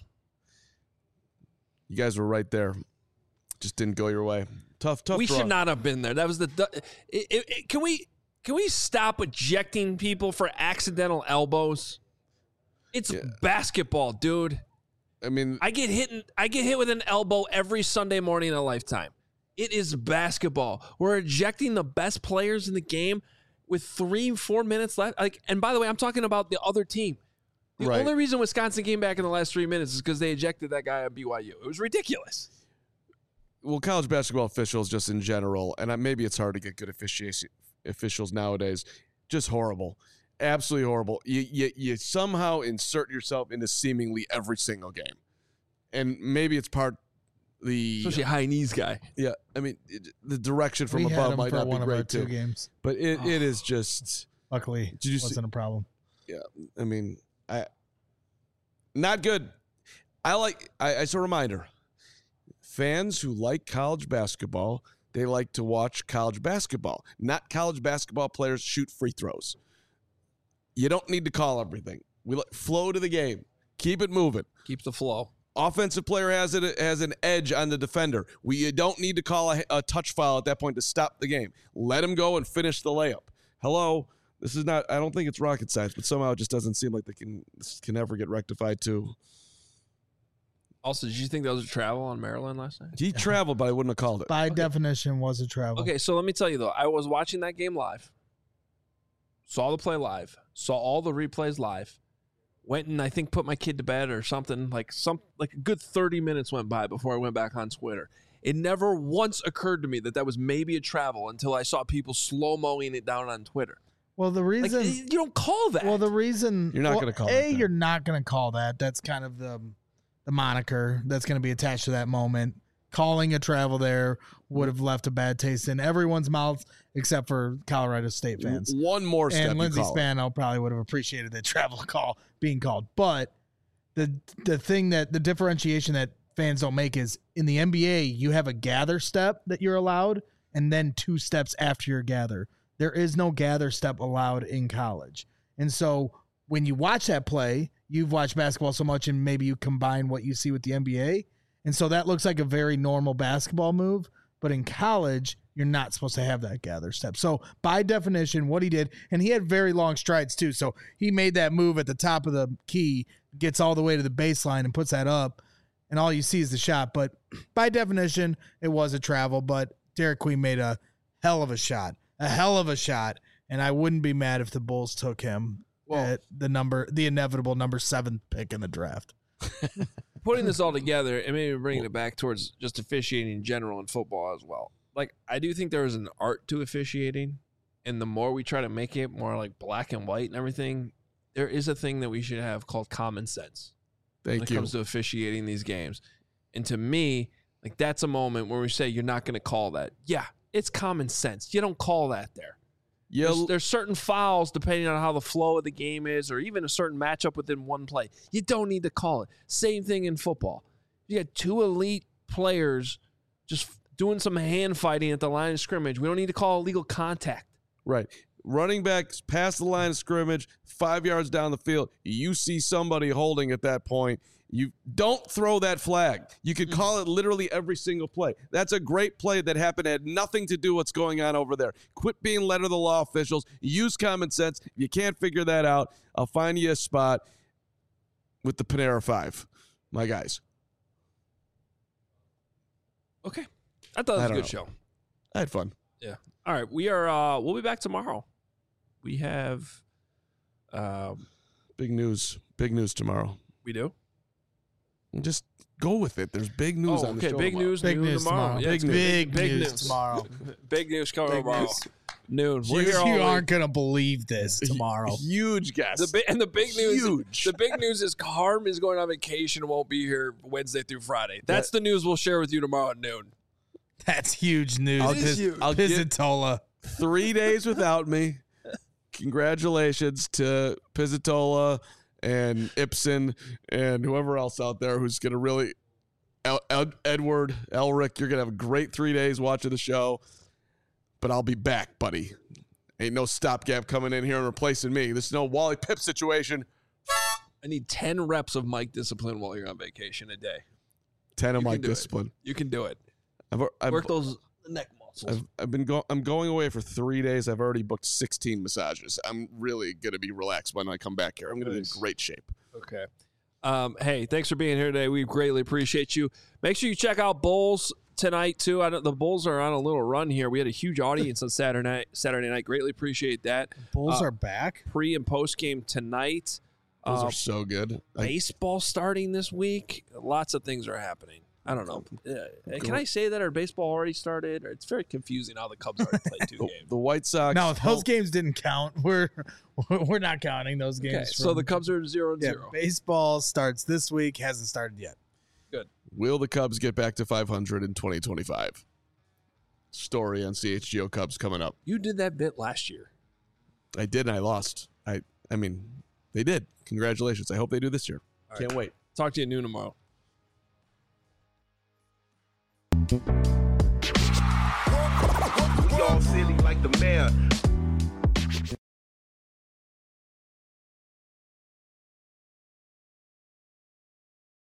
you guys were right there. Just didn't go your way. Tough, tough We draw. should not have been there. That was the it, it, it, Can we can we stop ejecting people for accidental elbows? It's Yeah. basketball, dude. I mean, I get hit in, I get hit with an elbow every Sunday morning in a lifetime. It is basketball. We're ejecting the best players in the game with three, four minutes left. Like, and by the way, I'm talking about the other team. The Right. only reason Wisconsin came back in the last three minutes is because they ejected that guy at B Y U. It was ridiculous. well, college basketball officials just in general, and I- maybe it's hard to get good officiation officials nowadays. Just horrible, absolutely horrible. You, you you somehow insert yourself into seemingly every single game, and maybe it's part the Especially a high knees guy. yeah. I mean, it, the direction from we had above him might for not one be of our great two too, games. but it, it is just. Luckily, Did you see- wasn't a problem. Yeah, I mean, I not good. I like. I, as a reminder, fans who like college basketball, they like to watch college basketball, not college basketball players shoot free throws. You don't need to call everything. We let flow to the game. Keep it moving. Keep the flow. Offensive player has it has an edge on the defender. We you don't need to call a, a touch foul at that point to stop the game. Let him go and finish the layup. Hello. This is not, I don't think it's rocket science, but somehow it just doesn't seem like they can this can ever get rectified too. Also, did you think that was a travel on Maryland last night? He traveled, but I wouldn't have called it. By definition, was a travel. Okay, so let me tell you though, I was watching that game live, saw the play live, saw all the replays live, went and I think put my kid to bed or something. Like some like a good thirty minutes went by before I went back on Twitter. It never once occurred to me that that was maybe a travel until I saw people slow-moing it down on Twitter. Well, the Like, reason you don't call that. Well, the reason You're not well, gonna call A, that then. you're not going to call that. That's kind of the the moniker that's going to be attached to that moment. Calling a travel there would have left a bad taste in everyone's mouth except for Colorado State fans. One more step. And you Lindsey call it. Spano probably would have appreciated the travel call being called. But the the thing that the differentiation that fans don't make is in the N B A, you have a gather step that you're allowed, and then two steps after your gather. There is no gather step allowed in college. And so when you watch that play, you've watched basketball so much and maybe you combine what you see with the N B A. And so that looks like a very normal basketball move. But in college, you're not supposed to have that gather step. So by definition, what he did, and he had very long strides too. So he made that move at the top of the key, gets all the way to the baseline and puts that up. And all you see is the shot. But by definition, it was a travel. But Derek Queen made a hell of a shot. A hell of a shot, and I wouldn't be mad if the Bulls took him Well- at the number, the inevitable number seven pick in the draft. Putting this all together and maybe bringing it back towards just officiating in general in football as well. Like, I do think there is an art to officiating, and the more we try to make it more like black and white and everything, there is a thing that we should have called common sense when Thank it you. comes to officiating these games. And to me, like, that's a moment where we say you're not going to call that. Yeah, it's common sense. You don't call that there. Yeah, There's, there's certain fouls depending on how the flow of the game is, or even a certain matchup within one play. You don't need to call it. Same thing in football. You got two elite players just doing some hand fighting at the line of scrimmage. We don't need to call illegal contact. right. Running backs past the line of scrimmage, five yards down the field. You see somebody holding at that point. You don't throw that flag. You could call it literally every single play. That's a great play that happened. It had nothing to do with what's going on over there. Quit being letter of the law officials. Use common sense. If you can't figure that out, I'll find you a spot with the Panera Five, my guys. Okay. I thought it was I a don't good know. show. I had fun. Yeah. All right. We are, uh, we'll be back tomorrow. We have, um, Big news. Big news tomorrow. we do. Just go with it. There's big news Oh, on the okay. show Big tomorrow. news, Big noon news tomorrow. Yeah, Big it's news. Big, big news, news. tomorrow. Big news coming Big tomorrow. news. Noon. We're You, here all you week. aren't gonna believe this tomorrow. Huge guess. The bi- and the big news, Huge. the big news is Carm is going on vacation and won't be here Wednesday through Friday. That's the news we'll share with you tomorrow at noon. That's huge news. I'll, Piz- just- I'll get Pizzatola. three days without me. Congratulations to Pizzatola and Ibsen and whoever else out there who's going to really El- Ed- Edward, Elric, you're going to have a great three days watching the show, but I'll be back, buddy. Ain't no stopgap coming in here and replacing me. This is no Wally Pipp situation. I need ten reps of mic discipline while you're on vacation a day. ten of You my can do it. discipline. You can do it. I've, I've, Work those neck muscles. I've, I've been going. I'm going away for three days. I've already booked sixteen massages. I'm really gonna be relaxed when I come back here. I'm gonna Nice. be in great shape. Okay. Um, hey, thanks for being here today. We greatly appreciate you. Make sure you check out Bulls tonight too. I don't, the Bulls are on a little run here. We had a huge audience on Saturday night. Saturday night. Greatly appreciate that. Bulls Uh, are back. Pre and post game tonight. Those Uh, are so good. I, baseball starting this week. Lots of things are happening. I don't know. Uh, can I say that our baseball already started? Or it's very confusing how the Cubs already played two the, games. the White Sox. No, those home- games didn't count. We're we're not counting those games. Okay, so from- the Cubs are zero and yeah, zero. baseball starts this week. Hasn't started yet. Will the Cubs get back to five hundred in twenty twenty-five? Story on C H G O Cubs coming up. You did that bit last year. I did, and I lost. I. I mean, they did. Congratulations. I hope they do this year. All Can't right. wait. Talk to you at noon tomorrow. We all silly like the mayor.